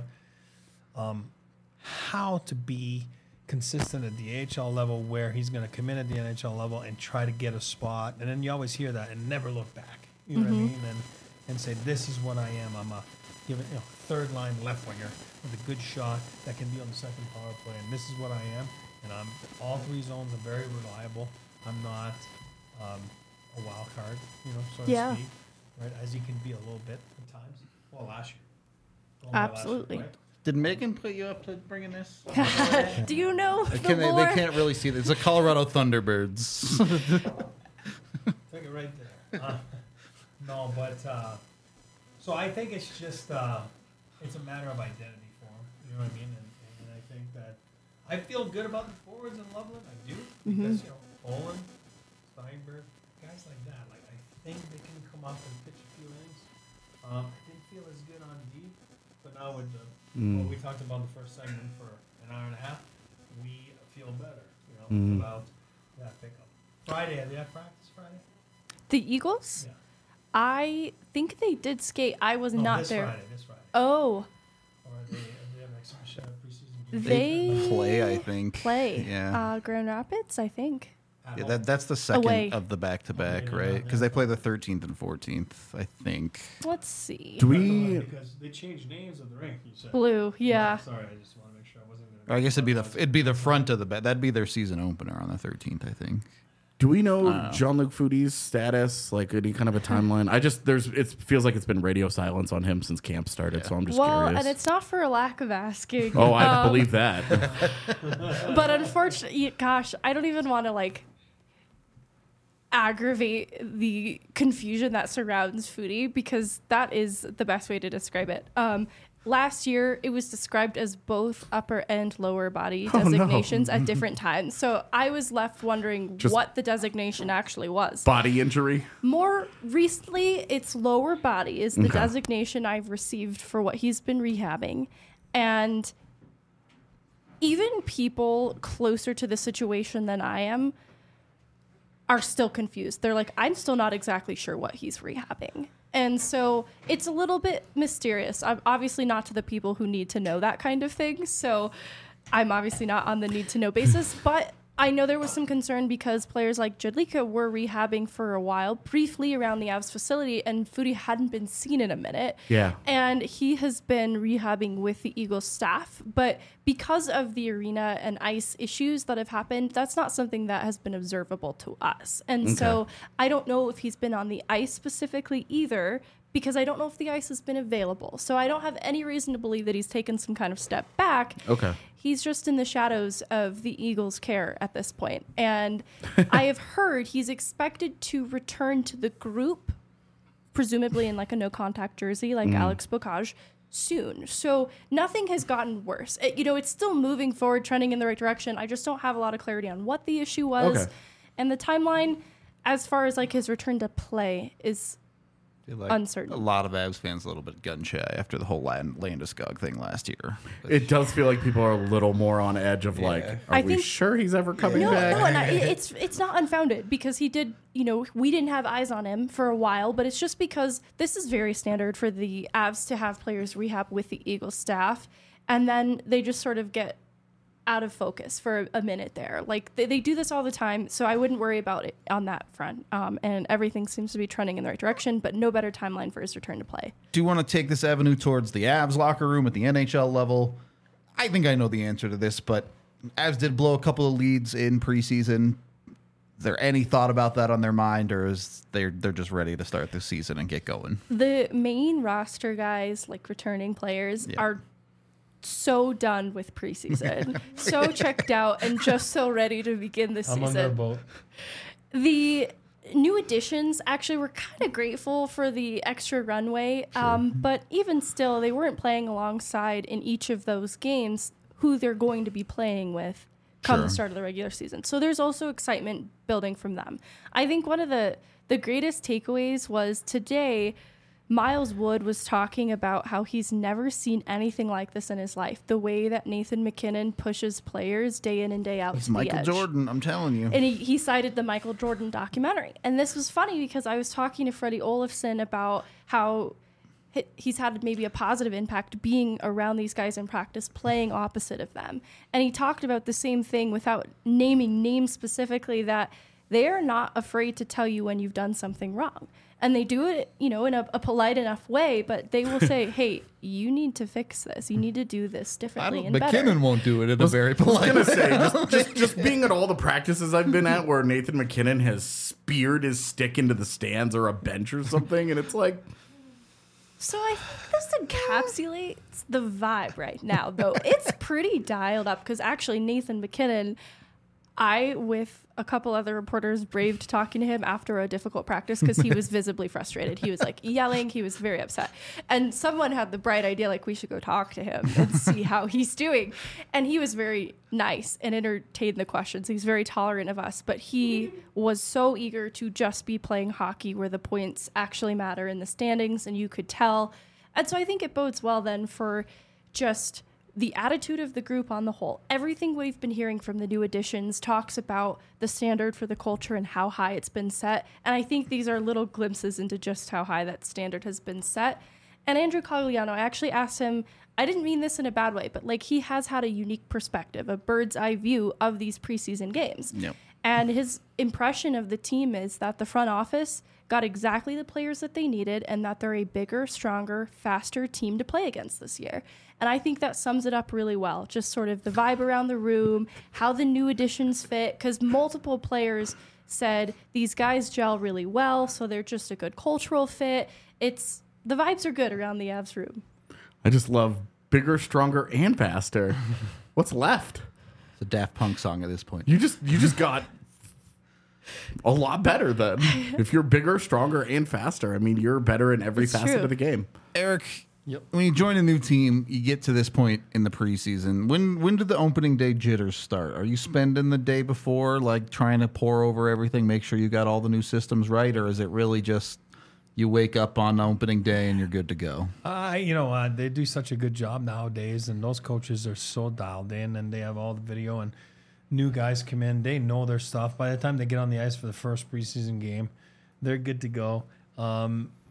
how to be consistent at the AHL level where he's going to come in at the NHL level and try to get a spot. And then you always hear that and never look back. You know what I mean? And say, this is what I am. I'm a third line left winger with a good shot that can be on the second power play. And this is what I am. And I'm all three zones are very reliable. I'm not a wild card, so to speak, right? As you can be a little bit at times. Well, last year. Absolutely. Last year, right? Did Megan put you up to bringing this? Do you know They can't really see this. It's the Colorado Thunderbirds. Take it right there. No, but so I think it's just it's a matter of identity for him. You know what I mean? And I think that I feel good about the forwards in Loveland. I do because Olin, Steinberg, guys like that. Like I think they can come up and pitch a few innings. I didn't feel as good on D, but now with what we talked about in the first segment for an hour and a half, we feel better. About that pickup. Friday, they have practice Friday. The Eagles? Yeah. I think they did skate. I was not this there. This Friday. Oh. Or they have an exhibition preseason game. They play, I think. Yeah. Grand Rapids, I think. Yeah, that's the second Away. of the back-to-back, right? Because they play the 13th and 14th, I think. Let's see. Do we? Because they changed names of the rink. You said. Blue, yeah. Sorry, I just want to make sure I wasn't. Or I guess it'd be the front of the back. That'd be their season opener on the 13th, I think. Do we know Jean-Luc Foodie's status? Like any kind of a timeline? It feels like it's been radio silence on him since camp started. So I'm just curious. And it's not for a lack of asking. Oh, I believe that. But unfortunately, gosh, I don't even want to aggravate the confusion that surrounds Foodie because that is the best way to describe it. Last year, it was described as both upper and lower body designations at different times. So I was left wondering what the designation actually was. Body injury? More recently, it's lower body is the designation I've received for what he's been rehabbing. And even people closer to the situation than I am are still confused. They're like, I'm still not exactly sure what he's rehabbing. And so it's a little bit mysterious. I'm obviously not to the people who need to know that kind of thing. So I'm obviously not on the need to know basis, but I know there was some concern because players like Jedlicka were rehabbing for a while, briefly around the Avs facility, and Foudy hadn't been seen in a minute. Yeah. And he has been rehabbing with the Eagles staff. But because of the arena and ice issues that have happened, that's not something that has been observable to us. And so I don't know if he's been on the ice specifically either, because I don't know if the ice has been available. So I don't have any reason to believe that he's taken some kind of step back. Okay. He's just in the shadows of the Eagles' care at this point. And I have heard he's expected to return to the group, presumably in like a no-contact jersey like Alex Bocage, soon. So nothing has gotten worse. It's still moving forward, trending in the right direction. I just don't have a lot of clarity on what the issue was. Okay. And the timeline, as far as like his return to play, is uncertain. A lot of Avs fans a little bit gun shy after the whole Landeskog thing last year. It does feel like people are a little more on edge of are we sure he's ever coming back? No, and it's not unfounded because he did, we didn't have eyes on him for a while, but it's just because this is very standard for the Avs to have players rehab with the Eagles staff, and then they just sort of get out of focus for a minute there. Like they do this all the time, so I wouldn't worry about it on that front. And everything seems to be trending in the right direction, but no better timeline for his return to play. Do you want to take this avenue towards the Avs locker room at the NHL level? I think I know the answer to this, but Avs did blow a couple of leads in preseason. Is there any thought about that on their mind, or is they're just ready to start the season and get going? The main roster guys, like returning players, are so done with preseason, so checked out, and just so ready to begin the season. I'm on their boat. The new additions actually were kind of grateful for the extra runway, but even still, they weren't playing alongside in each of those games who they're going to be playing with come the start of the regular season. So there's also excitement building from them. I think one of the greatest takeaways was today, Miles Wood was talking about how he's never seen anything like this in his life. The way that Nathan MacKinnon pushes players day in and day out. He's to Michael the edge. Jordan, I'm telling you. And he cited the Michael Jordan documentary. And this was funny because I was talking to Freddie Olofsson about how he's had maybe a positive impact being around these guys in practice, playing opposite of them. And he talked about the same thing without naming names specifically, that they are not afraid to tell you when you've done something wrong. And they do it, in a polite enough way, but they will say, hey, you need to fix this. You need to do this differently and better. McKinnon won't do it in a very polite way. I was going to say, just being at all the practices I've been at where Nathan MacKinnon has speared his stick into the stands or a bench or something, and it's like... So I think this encapsulates the vibe right now, though. It's pretty dialed up because actually Nathan MacKinnon... I, with a couple other reporters, braved talking to him after a difficult practice because he was visibly frustrated. He was like yelling. He was very upset. And someone had the bright idea, like, we should go talk to him and see how he's doing. And he was very nice and entertained the questions. He's very tolerant of us. But he was so eager to just be playing hockey where the points actually matter in the standings, and you could tell. And so I think it bodes well then for just the attitude of the group on the whole. Everything we've been hearing from the new additions talks about the standard for the culture and how high it's been set. And I think these are little glimpses into just how high that standard has been set. And Andrew Cogliano, I actually asked him, I didn't mean this in a bad way, but like he has had a unique perspective, a bird's eye view of these preseason games. Yep. And his impression of the team is that the front office got exactly the players that they needed and that they're a bigger, stronger, faster team to play against this year. And I think that sums it up really well. Just sort of the vibe around the room, how the new additions fit, because multiple players said these guys gel really well, so they're just a good cultural fit. The vibes are good around the Avs room. I just love bigger, stronger, and faster. What's left? It's a Daft Punk song at this point. You just got a lot better then. If you're bigger, stronger, and faster, I mean, you're better in every facet of the game. Eric, when you join a new team, you get to this point in the preseason. When do the opening day jitters start? Are you spending the day before, like trying to pore over everything, make sure you got all the new systems right, or is it really just you wake up on opening day and you're good to go? They do such a good job nowadays, and those coaches are so dialed in, and they have all the video, and new guys come in, they know their stuff. By the time they get on the ice for the first preseason game, they're good to go.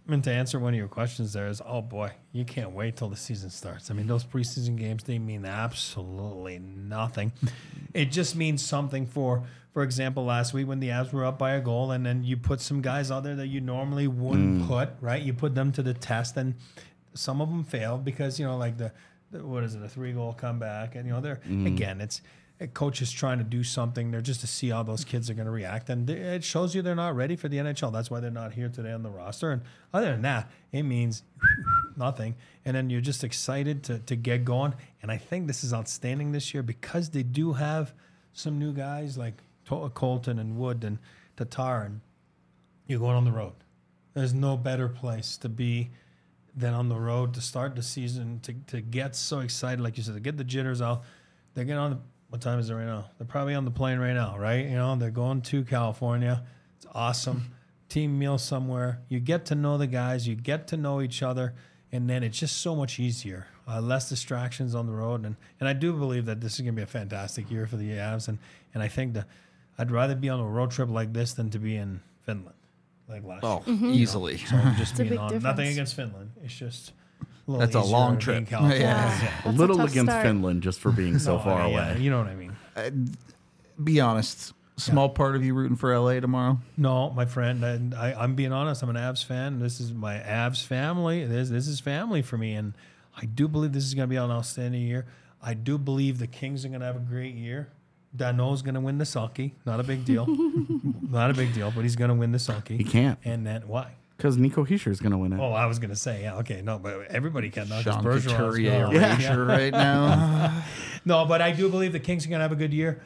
And to answer one of your questions there is, oh boy, you can't wait till the season starts. I mean, those preseason games, they mean absolutely nothing. It just means something for example, last week when the Avs were up by a goal and then you put some guys out there that you normally wouldn't put, right? You put them to the test and some of them failed because, like the what is it, a 3-goal comeback. And, they're, again, it's a coach is trying to do something there just to see how those kids are going to react. And it shows you they're not ready for the NHL. That's why they're not here today on the roster. And other than that, it means nothing. And then you're just excited to get going. And I think this is outstanding this year because they do have some new guys like Colton and Wood and Tatar. And you're going on the road. There's no better place to be than on the road to start the season, to get so excited, like you said, to get the jitters out. They get on the... What time is it right now? They're probably on the plane right now, right? They're going to California. It's awesome. Team meal somewhere. You get to know the guys. You get to know each other. And then it's just so much easier. Less distractions on the road. And I do believe that this is going to be a fantastic year for the Avs. And I think that I'd rather be on a road trip like this than to be in Finland like last year. Easily. So I'm just being difference. nothing against Finland. It's just... That's a long trip. A little against start. Finland just for being so far away. You know what I mean. Be honest. Small part of you rooting for LA tomorrow? No, my friend. I'm being honest. I'm an Avs fan. This is my Avs family. This is family for me. And I do believe this is going to be an outstanding year. I do believe the Kings are going to have a great year. Danault's going to win the Selke. Not a big deal. Not a big deal, but he's going to win the Selke. He can't. And then why? Because Nico Hischier is going to win it. Oh, I was going to say, yeah, okay. No, but everybody can. Not just Sean Bergeron's Couturier gone. erasure right now. No, but I do believe the Kings are going to have a good year.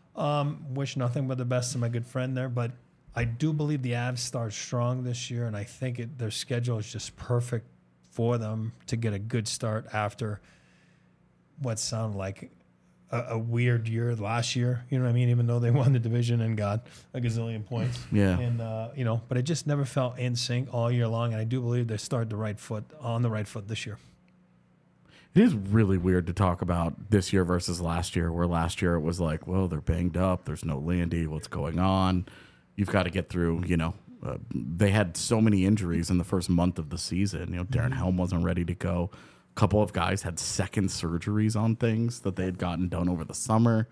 Wish nothing but the best to my good friend there. But I do believe the Avs start strong this year, and I think their schedule is just perfect for them to get a good start after what sounded like a weird year last year. You know what I mean? Even though they won the division and got a gazillion points. Yeah. And, but it just never felt in sync all year long. And I do believe they started on the right foot this year. It is really weird to talk about this year versus last year, where last year it was like, well, they're banged up. There's no Landy. What's going on? You've got to get through, they had so many injuries in the first month of the season. Darren Helm wasn't ready to go. A couple of guys had second surgeries on things that they had gotten done over the summer.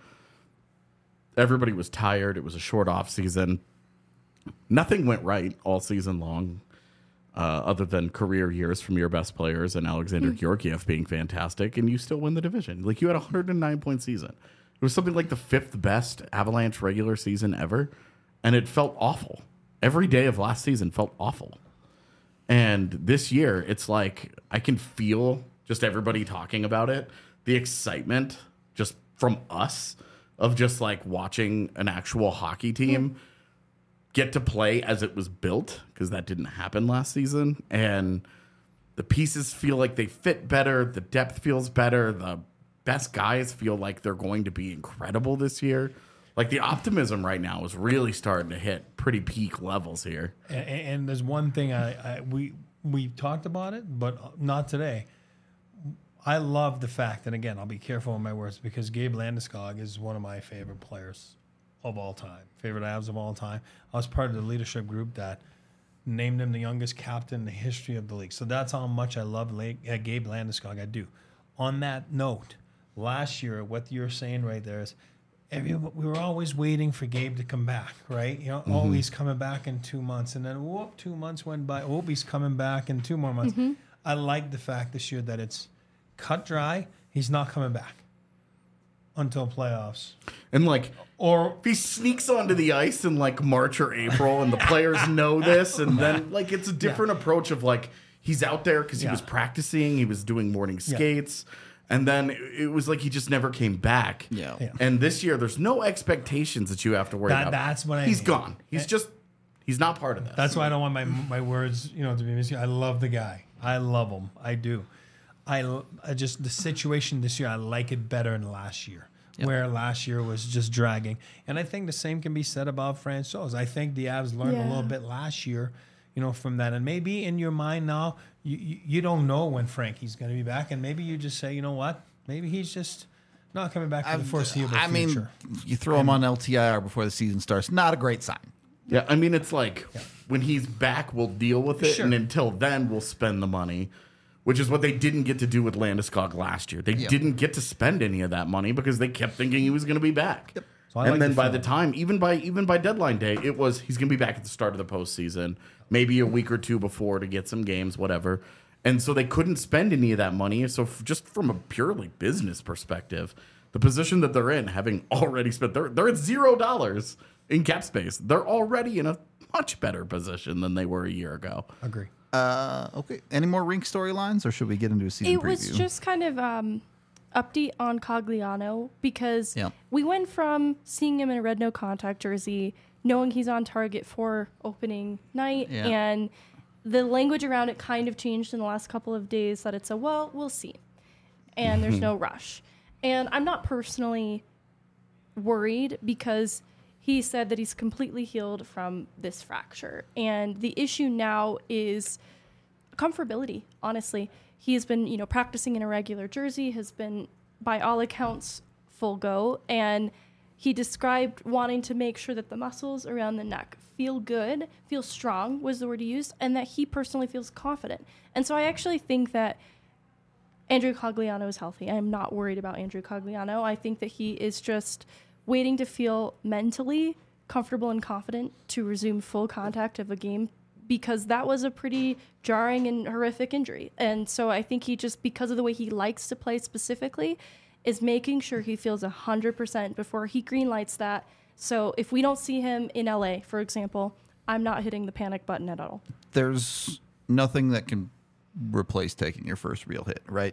Everybody was tired. It was a short off season. Nothing went right all season long, other than career years from your best players and Alexander Georgiev being fantastic, and you still win the division. Like, you had a 109-point season. It was something like the 5th best Avalanche regular season ever, and it felt awful. Every day of last season felt awful. And this year, it's like I can feel just everybody talking about it, the excitement just from us of just like watching an actual hockey team get to play as it was built, because that didn't happen last season. And the pieces feel like they fit better. The depth feels better. The best guys feel like they're going to be incredible this year. Like, the optimism right now is really starting to hit pretty peak levels here. And there's one thing we talked about it, but not today. I love the fact, and again, I'll be careful with my words, because Gabe Landeskog is one of my favorite players of all time, favorite Avs of all time. I was part of the leadership group that named him the youngest captain in the history of the league. So that's how much I love Gabe Landeskog. I do. On that note, last year, what you're saying right there is, we were always waiting for Gabe to come back, right? Oh, he's coming back in 2 months. And then, 2 months went by. Oh, he's coming back in 2 more months. I like the fact this year that it's cut dry. He's not coming back until playoffs. And, or if he sneaks onto the ice in, March or April, and the players know this, and then, it's a different approach of, he's out there because he was practicing. He was doing morning skates. And then it was like he just never came back. Yeah. And this year, there's no expectations that you have to worry about. That's what He's gone. He's not part of this. That's why I don't want my words, to be missing. I love the guy. I love him. I do. I just, the situation this year, I like it better than last year, where last year was just dragging. And I think the same can be said about Francouz. I think the Avs learned a little bit last year, from that. And maybe in your mind now, you don't know when Frankie's going to be back, and maybe you just say, you know what? Maybe he's just not coming back for the foreseeable future. You throw him on LTIR before the season starts. Not a great sign. Yeah, I mean, it's like when he's back, we'll deal with it, and until then, we'll spend the money, which is what they didn't get to do with Landeskog last year. They didn't get to spend any of that money because they kept thinking he was going to be back. Yep. So and then by the time, even by deadline day, it was he's going to be back at the start of the postseason, maybe a week or two before to get some games, whatever. And so they couldn't spend any of that money. So just from a purely business perspective, the position that they're in, having already spent, they're at $0 in cap space. They're already in a much better position than they were a year ago. Agree. Okay. Any more rink storylines, or should we get into a season preview? It was just kind of update on Cogliano, because we went from seeing him in a red no contact jersey, knowing he's on target for opening night, and the language around it kind of changed in the last couple of days that it's we'll see. And there's no rush. And I'm not personally worried because he said that he's completely healed from this fracture. And the issue now is comfortability, honestly. He has been, practicing in a regular jersey, has been, by all accounts, full go. And he described wanting to make sure that the muscles around the neck feel good, feel strong was the word he used, and that he personally feels confident. And so I actually think that Andrew Cogliano is healthy. I am not worried about Andrew Cogliano. I think that he is just waiting to feel mentally comfortable and confident to resume full contact of a game, because that was a pretty jarring and horrific injury. And so I think he just, because of the way he likes to play specifically, is making sure he feels 100% before he greenlights that. So if we don't see him in LA, for example, I'm not hitting the panic button at all. There's nothing that can replace taking your first real hit, right?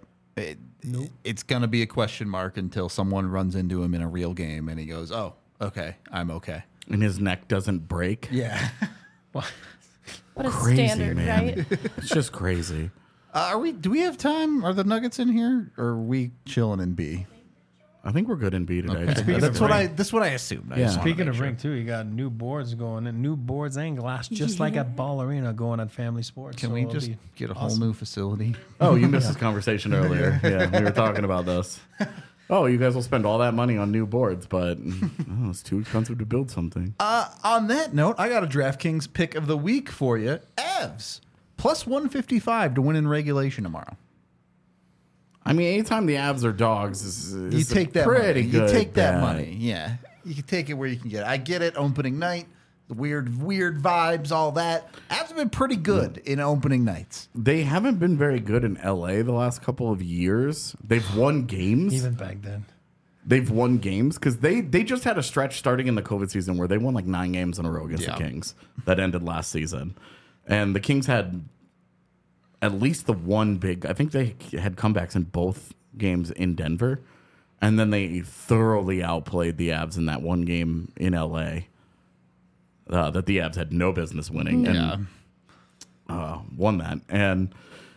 It's going to be a question mark until someone runs into him in a real game and he goes, oh, okay, I'm okay. And his neck doesn't break. Yeah. What a crazy, standard, man. Right? It's just crazy. Do we have time? Are the Nuggets in here, or are we chilling in B? I think we're good in B today. Okay. That's what I assumed. Speaking of rink too, you got new boards going and new boards and glass, just like at Ball Arena going at Family Sports. Can we just get a whole new facility? Oh, you missed this conversation earlier. Yeah, we were talking about this. Oh, you guys will spend all that money on new boards, but it's too expensive to build something. On that note, I got a DraftKings pick of the week for you. Avs plus 155 to win in regulation tomorrow. I mean, anytime the Avs are dogs, you take that pretty money. Good you take that bet. money. Yeah, you can take it where you can get it. I get it. Opening night, the weird vibes, all that. Avs have been pretty good in opening nights. They haven't been very good in LA the last couple of years. They've won games. Even back then. They've won games because they just had a stretch starting in the COVID season where they won like 9 games in a row against the Kings that ended last season. And the Kings had at least the one big, I think they had comebacks in both games in Denver. And then they thoroughly outplayed the Avs in that one game in LA that the Avs had no business winning. And won that. And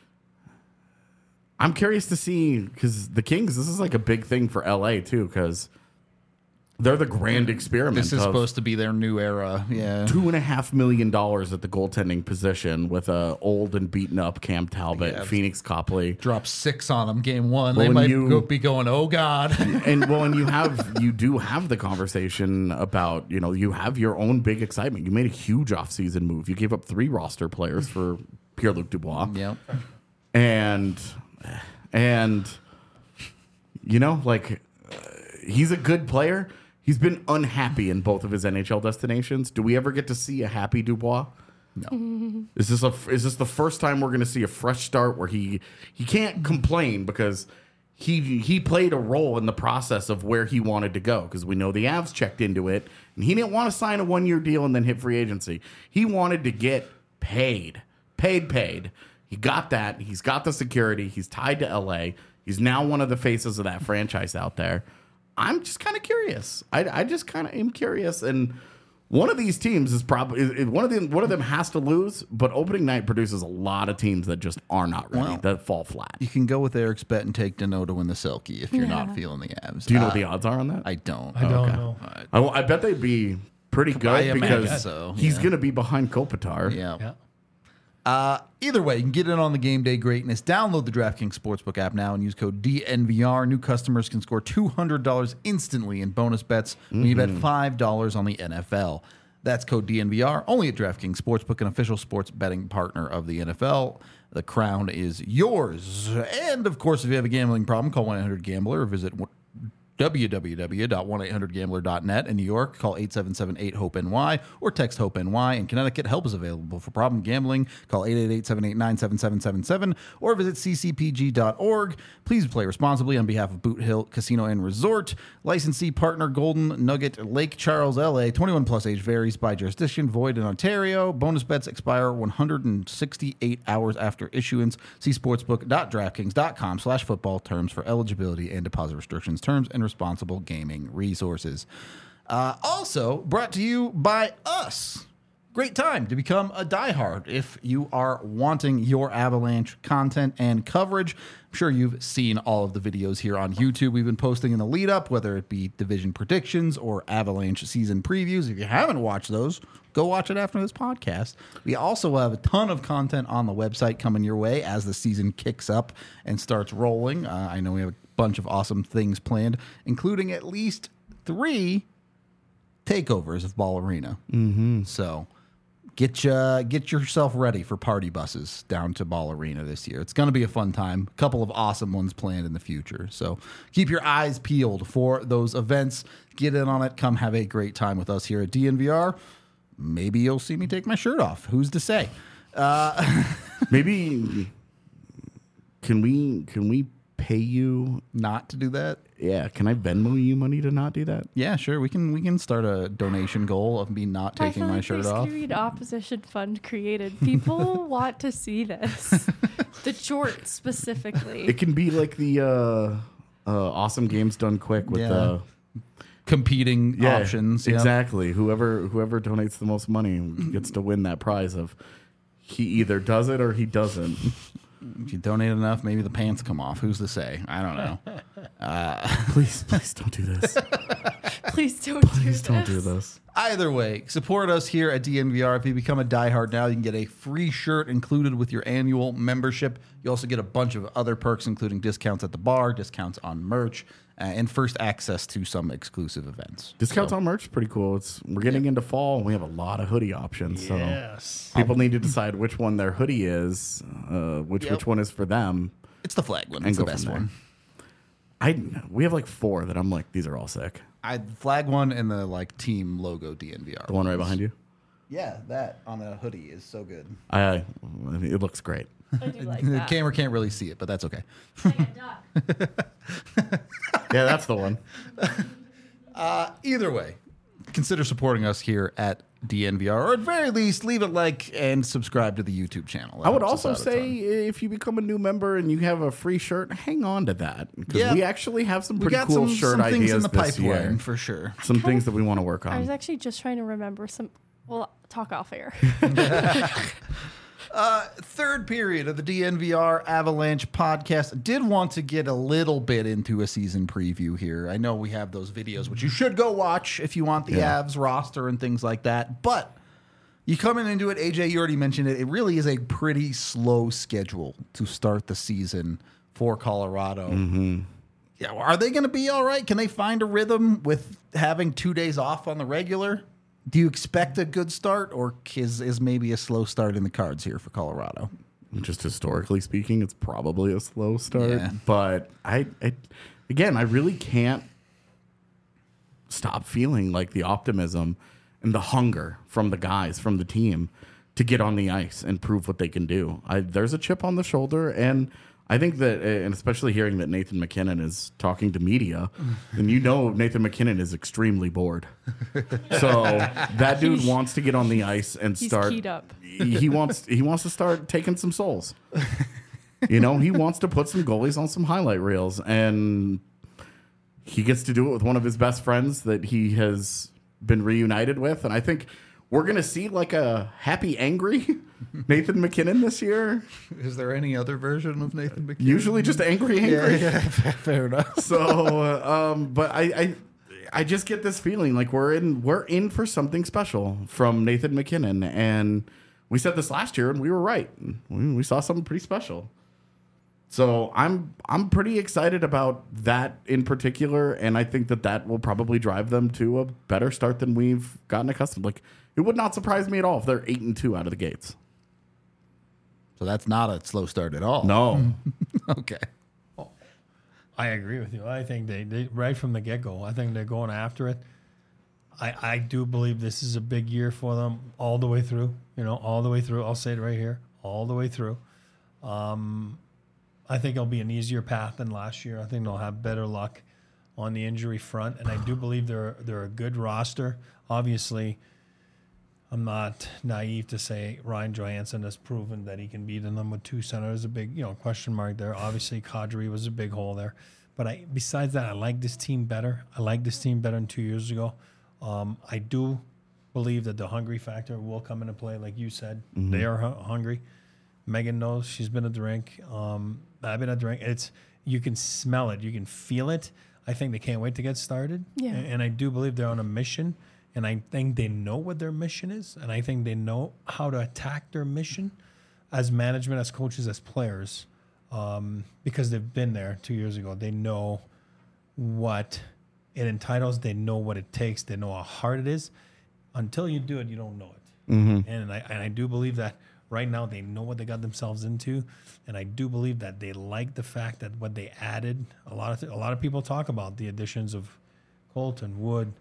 I'm curious to see, because the Kings, this is like a big thing for LA too, because they're the grand experiment. This is supposed to be their new era. Yeah, $2.5 million at the goaltending position with a old and beaten up Cam Talbot, Phoenix Copley. Drop 6 on them game 1. Well, they might be going, oh God. And you do have the conversation about, you have your own big excitement. You made a huge offseason move. You gave up 3 roster players for Pierre-Luc Dubois. Yep. And he's a good player. He's been unhappy in both of his NHL destinations. Do we ever get to see a happy Dubois? No. Is this the first time we're going to see a fresh start where he can't complain because he played a role in the process of where he wanted to go, because we know the Avs checked into it and he didn't want to sign a 1-year deal and then hit free agency. He wanted to get paid. He got that. He's got the security. He's tied to LA. He's now one of the faces of that franchise out there. I'm just kind of curious. I just kind of am curious. And one of these teams is probably one of them has to lose. But opening night produces a lot of teams that just are not ready, that fall flat. You can go with Eric's bet and take Dano to win the Selkie if you're not feeling the Avs. Do you know what the odds are on that? I don't. I don't know. I bet they'd be pretty good because he's going to be behind Kopitar. Yeah. Either way, you can get in on the game day greatness. Download the DraftKings Sportsbook app now and use code DNVR. New customers can score $200 instantly in bonus bets when you bet $5 on the NFL. That's code DNVR, only at DraftKings Sportsbook, an official sports betting partner of the NFL. The crown is yours. And, of course, if you have a gambling problem, call 1-800-GAMBLER or visit www.1800gambler.net. In New York, call 877-8-HOPE-NY or text HOPE-NY. In Connecticut, help is available for problem gambling. Call 888-789-7777 or visit ccpg.org. Please play responsibly on behalf of Boot Hill Casino and Resort. Licensee partner Golden Nugget Lake Charles, LA. 21 plus age varies by jurisdiction. Void in Ontario. Bonus bets expire 168 hours after issuance. See sportsbook.draftkings.com/football terms for eligibility and deposit restrictions, terms, and responsible gaming resources. Also brought to you by us. Great time to become a diehard if you are wanting your Avalanche content and coverage. I'm sure you've seen all of the videos here on YouTube we've been posting in the lead up, whether it be division predictions or Avalanche season previews. If you haven't watched those, go watch it after this podcast. We also have a ton of content on the website coming your way as the season kicks up and starts rolling. I know we have a bunch of awesome things planned, including at least 3 takeovers of Ball Arena. So get yourself ready for party buses down to Ball Arena this year. It's going to be a fun time. A couple of awesome ones planned in the future. So keep your eyes peeled for those events. Get in on it. Come have a great time with us here at DNVR. Maybe you'll see me take my shirt off. Who's to say? Maybe can we pay you not to do that? Yeah, can I Venmo you money to not do that? Yeah, sure. We can start a donation goal of me not taking my shirt off. Screed Opposition Fund created. People want to see this. The short specifically. It can be like the Awesome Games Done Quick with the competing options. Exactly. Whoever donates the most money gets to win that prize of he either does it or he doesn't. If you donate enough, maybe the pants come off. Who's to say? I don't know. Please don't do this. Please don't do this. Either way, support us here at DNVR. If you become a diehard now, you can get a free shirt included with your annual membership. You also get a bunch of other perks, including discounts at the bar, discounts on merch, and first access to some exclusive events. Discounts on merch is pretty cool. We're getting into fall, and we have a lot of hoodie options. Yes. So people need to decide which one their hoodie is, which one is for them. It's the flag one. It's the best one. We have like 4 that I'm like, these are all sick. Flag one and the team logo DNVR. The one right behind you? Yeah, that on a hoodie is so good. I mean, it looks great. I do like The that. camera can't really see it, but that's okay. Yeah, that's the one. Either way, consider supporting us here at DNVR, or at very least, leave a like and subscribe to the YouTube channel. I would also say if you become a new member and you have a free shirt, hang on to that. Because we actually have some pretty cool shirt ideas things in the this pipeline year. for sure. Some things that we want to work I was on. actually just trying to remember some. Well, talk off air. Third period of the DNVR Avalanche podcast. Did want to get a little bit into a season preview here. I know we have those videos, which you should go watch if you want the Avs roster and things like that. But you coming into it, AJ, you already mentioned it. It really is a pretty slow schedule to start the season for Colorado. Mm-hmm. Yeah, are they going to be all right? Can they find a rhythm with having 2 days off on the regular? Do you expect a good start, or is maybe a slow start in the cards here for Colorado? Just historically speaking, it's probably a slow start. Yeah. But I really can't stop feeling like the optimism and the hunger from the guys, from the team, to get on the ice and prove what they can do. There's a chip on the shoulder, and I think that, and especially hearing that Nathan MacKinnon is talking to media, and Nathan MacKinnon is extremely bored. So that dude wants to get on the ice and start. He's keyed up. He wants to start taking some souls. He wants to put some goalies on some highlight reels, and he gets to do it with one of his best friends that he has been reunited with. And I think we're going to see like a happy, angry Nathan MacKinnon this year. Is there any other version of Nathan MacKinnon? Usually just angry. Yeah, fair enough. So, but I just get this feeling like we're in for something special from Nathan MacKinnon. And we said this last year and we were right. We saw something pretty special. So I'm pretty excited about that in particular, and I think that will probably drive them to a better start than we've gotten accustomed. Like, it would not surprise me at all if they're 8-2 out of the gates. So that's not a slow start at all. No. Okay. I agree with you. I think they right from the get-go, I think they're going after it. I do believe this is a big year for them all the way through. All the way through. I'll say it right here, all the way through. I think it'll be an easier path than last year. I think they'll have better luck on the injury front, and I do believe they're a good roster. Obviously, I'm not naive to say Ryan Johansson has proven that he can be the number 2 center. There's a big question mark there. Obviously, Kadri was a big hole there. But besides that, I like this team better. I like this team better than 2 years ago. I do believe that the hungry factor will come into play, like you said. Mm-hmm. They are hungry. Megan knows. She's been at the rink. I've been at the rink. You can smell it. You can feel it. I think they can't wait to get started. Yeah. And I do believe they're on a mission. And I think they know what their mission is. And I think they know how to attack their mission as management, as coaches, as players. Because they've been there 2 years ago. They know what it entitles. They know what it takes. They know how hard it is. Until you do it, you don't know it. Mm-hmm. And I do believe that right now they know what they got themselves into, and I do believe that they like the fact that what they added. A lot of people talk about the additions of Colton, Wood,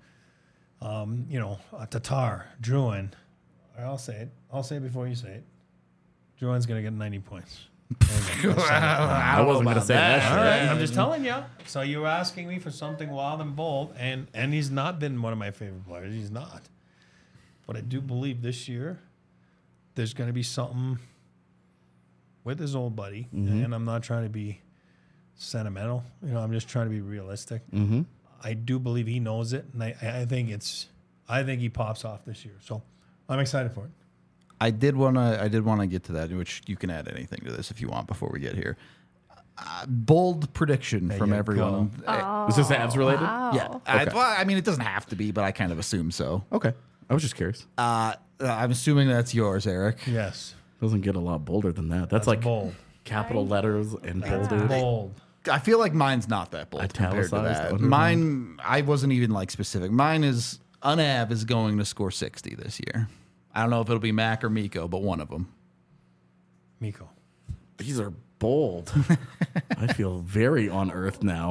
Tatar, Drouin. I'll say it. I'll say it before you say it. Drouin's gonna get 90 points. I wasn't gonna say that. All right, I'm just telling you. So you were asking me for something wild and bold, and he's not been one of my favorite players. He's not. But I do believe this year there's going to be something with his old buddy, and I'm not trying to be sentimental. I'm just trying to be realistic. Mm-hmm. I do believe he knows it, and I think he pops off this year. So I'm excited for it. I did want to get to that, which you can add anything to this if you want before we get here. Bold prediction from everyone. Is this Avs related? Wow. Yeah. Okay. I mean, it doesn't have to be, but I kind of assume so. Okay. I was just curious. I'm assuming that's yours, Eric. Yes. Doesn't get a lot bolder than that. That's like bold. Capital letters and bolded. Bold. I feel like mine's not that bold compared to Italicized, that. Mine, I wasn't even specific. Mine is Unav is going to score 60 this year. I don't know if it'll be Mac or Mikko, but one of them. Mikko. These are bold. I feel very on earth now.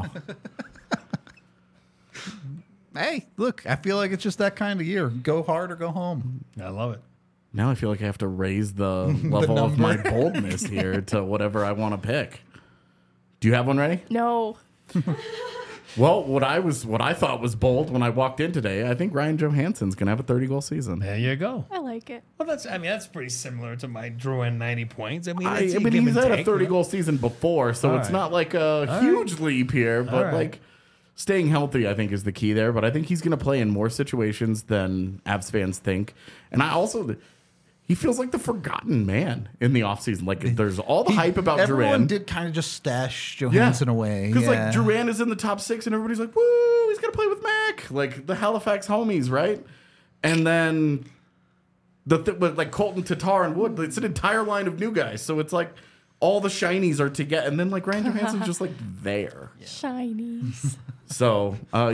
Hey, look, I feel like it's just that kind of year. Go hard or go home. I love it. Now I feel like I have to raise the level of my boldness here to whatever I want to pick. Do you have one ready? No. Well, what I thought was bold when I walked in today, I think Ryan Johansson's going to have a 30-goal season. There you go. I like it. Well, that's pretty similar to my Drouin 90 points. He's had a 30-goal season before, so it's not like a huge leap here, but like staying healthy, I think, is the key there. But I think he's going to play in more situations than Avs fans think. And he feels like the forgotten man in the offseason. Like, there's all the hype about Everyone Drouin. did kind of just stash Johansson away. Because, like, Drouin is in the top 6, and everybody's like, woo, he's going to play with Mac. Like, the Halifax homies, right? And then, like, Colton, Tatar, and Wood, it's an entire line of new guys. So it's like all the shinies are together. And then, like, Ryan Johansson's just, like, there. Yeah. Shinies. So,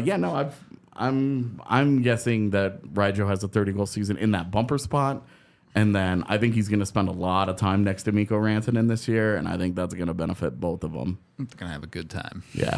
I'm guessing that Ryjo has a 30-goal season in that bumper spot. And then I think he's going to spend a lot of time next to Mikko Rantanen this year, and I think that's going to benefit both of them. They're going to have a good time. Yeah.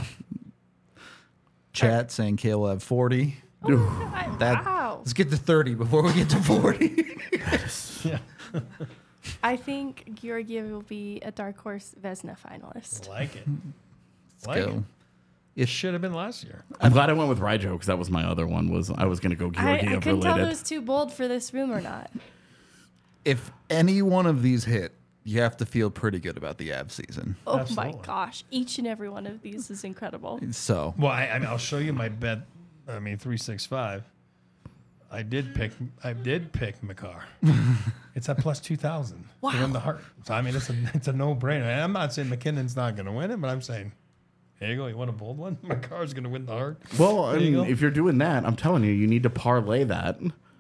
Chat saying Kale will have 40. Wow. Let's get to 30 before we get to 40. Yeah. I think Georgiev will be a dark horse Vezina finalist. I like it. Let's go. It should have been last year. I'm glad I went with Ryjo because that was my other one. I was going to go Georgiev I couldn't tell if it related. was too bold for this room or not. If any one of these hit, you have to feel pretty good about the Avs season. Oh Absolutely. my gosh. Each and every one of these is incredible. So, Well, I mean, I'll show you my bet. 365. I did pick Makar. It's at plus 2,000 to win the Hart. So I mean, it's a no-brainer. I'm not saying McKinnon's not going to win it, but I'm saying, here you go. You want a bold one? Makar's going to win the Hart. Well, if you're doing that, I'm telling you, you need to parlay that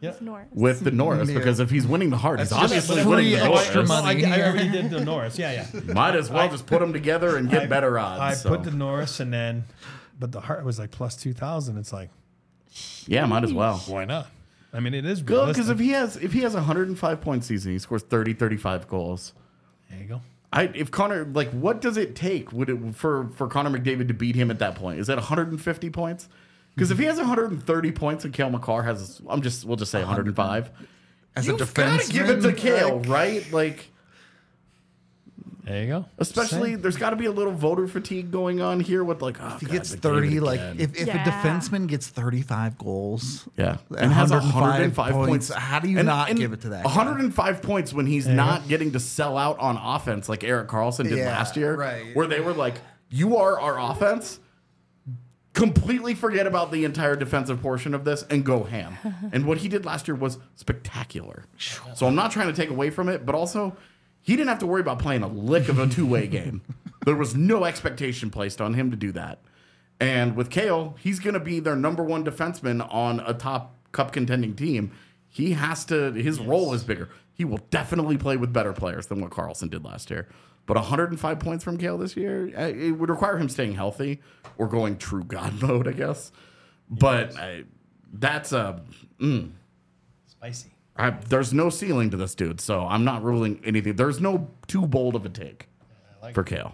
with the Norris because if he's winning the Hart, he's obviously winning the extra Norris. money. I already did the Norris. Yeah. Might as well just put them together and get better odds. I put the Norris and then, but the Hart was like plus 2,000. It's like, yeah, might as well. why not? I mean, it is good because if he has a 105 point season, he scores 35 goals. There you go. If Connor, what does it take for Connor McDavid to beat him at that point? Is that 150 points? Because if he has 130 points and Cale Makar has, we'll just say 105. As a defense, give it to Cale, right? Like, there you go. especially there's got to be a little voter fatigue going on here with if he gets 30, like if a defenseman gets 35 goals, and has 105 points, how do you not give it to that? 105 points when he's not getting to sell out on offense like Erik Karlsson did last year, right. where they were like, "You are our offense." Completely forget about the entire defensive portion of this and go ham. And what he did last year was spectacular. So I'm not trying to take away from it, but also he didn't have to worry about playing a lick of a two-way game. There was no expectation placed on him to do that. And with Cale, he's going to be their number one defenseman on a top cup contending team. He has to, his role is bigger. He will definitely play with better players than what Karlsson did last year. But 105 points from Cale this year, it would require him staying healthy or going true God mode, I guess. But that's spicy. There's no ceiling to this dude, so I'm not ruling anything. There's no too bold of a take for Cale.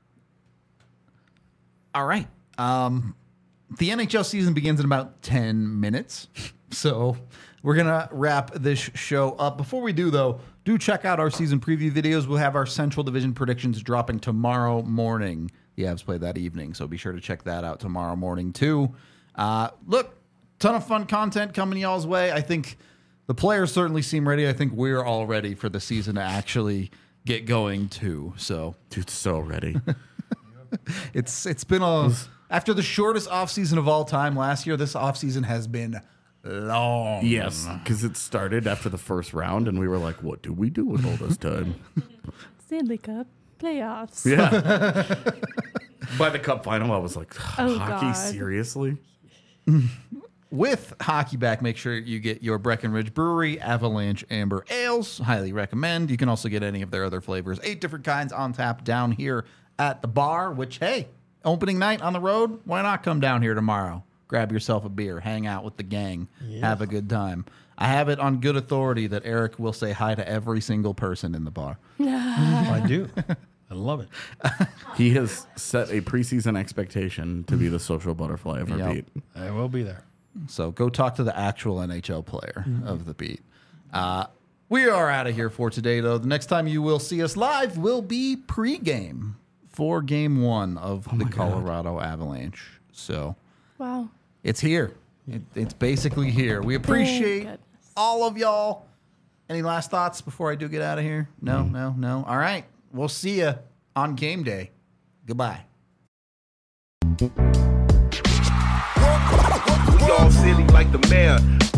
All right. The NHL season begins in about 10 minutes. So we're going to wrap this show up. Before we do, though, do check out our season preview videos. We'll have our Central Division predictions dropping tomorrow morning. The Avs play that evening, so be sure to check that out tomorrow morning, too. Look, ton of fun content coming y'all's way. I think the players certainly seem ready. I think we're all ready for the season to actually get going, too. So, dude's so ready. It's been after the shortest offseason of all time last year, this offseason has been long. Yes, because it started after the first round, and we were like, what do we do with all this time? Stanley Cup playoffs. Yeah. By the cup final, I was like, Oh, hockey, God. seriously? With hockey back, make sure you get your Breckenridge Brewery Avalanche Amber Ales. Highly recommend. You can also get any of their other flavors. 8 different kinds on tap down here at the bar, which, hey, opening night on the road, why not come down here tomorrow? Grab yourself a beer, hang out with the gang, have a good time. I have it on good authority that Eric will say hi to every single person in the bar. I do. I love it. He has set a preseason expectation to be the social butterfly of our Yep. beat. I will be there. So go talk to the actual NHL player of the beat. We are out of here for today, though. The next time you will see us live will be pregame for Game 1 of the Colorado Avalanche. So Wow. it's here. It's basically here. We appreciate goodness. all of y'all. Any last thoughts before I do get out of here? No. All right. We'll see you on game day. Goodbye. We all silly like the mayor.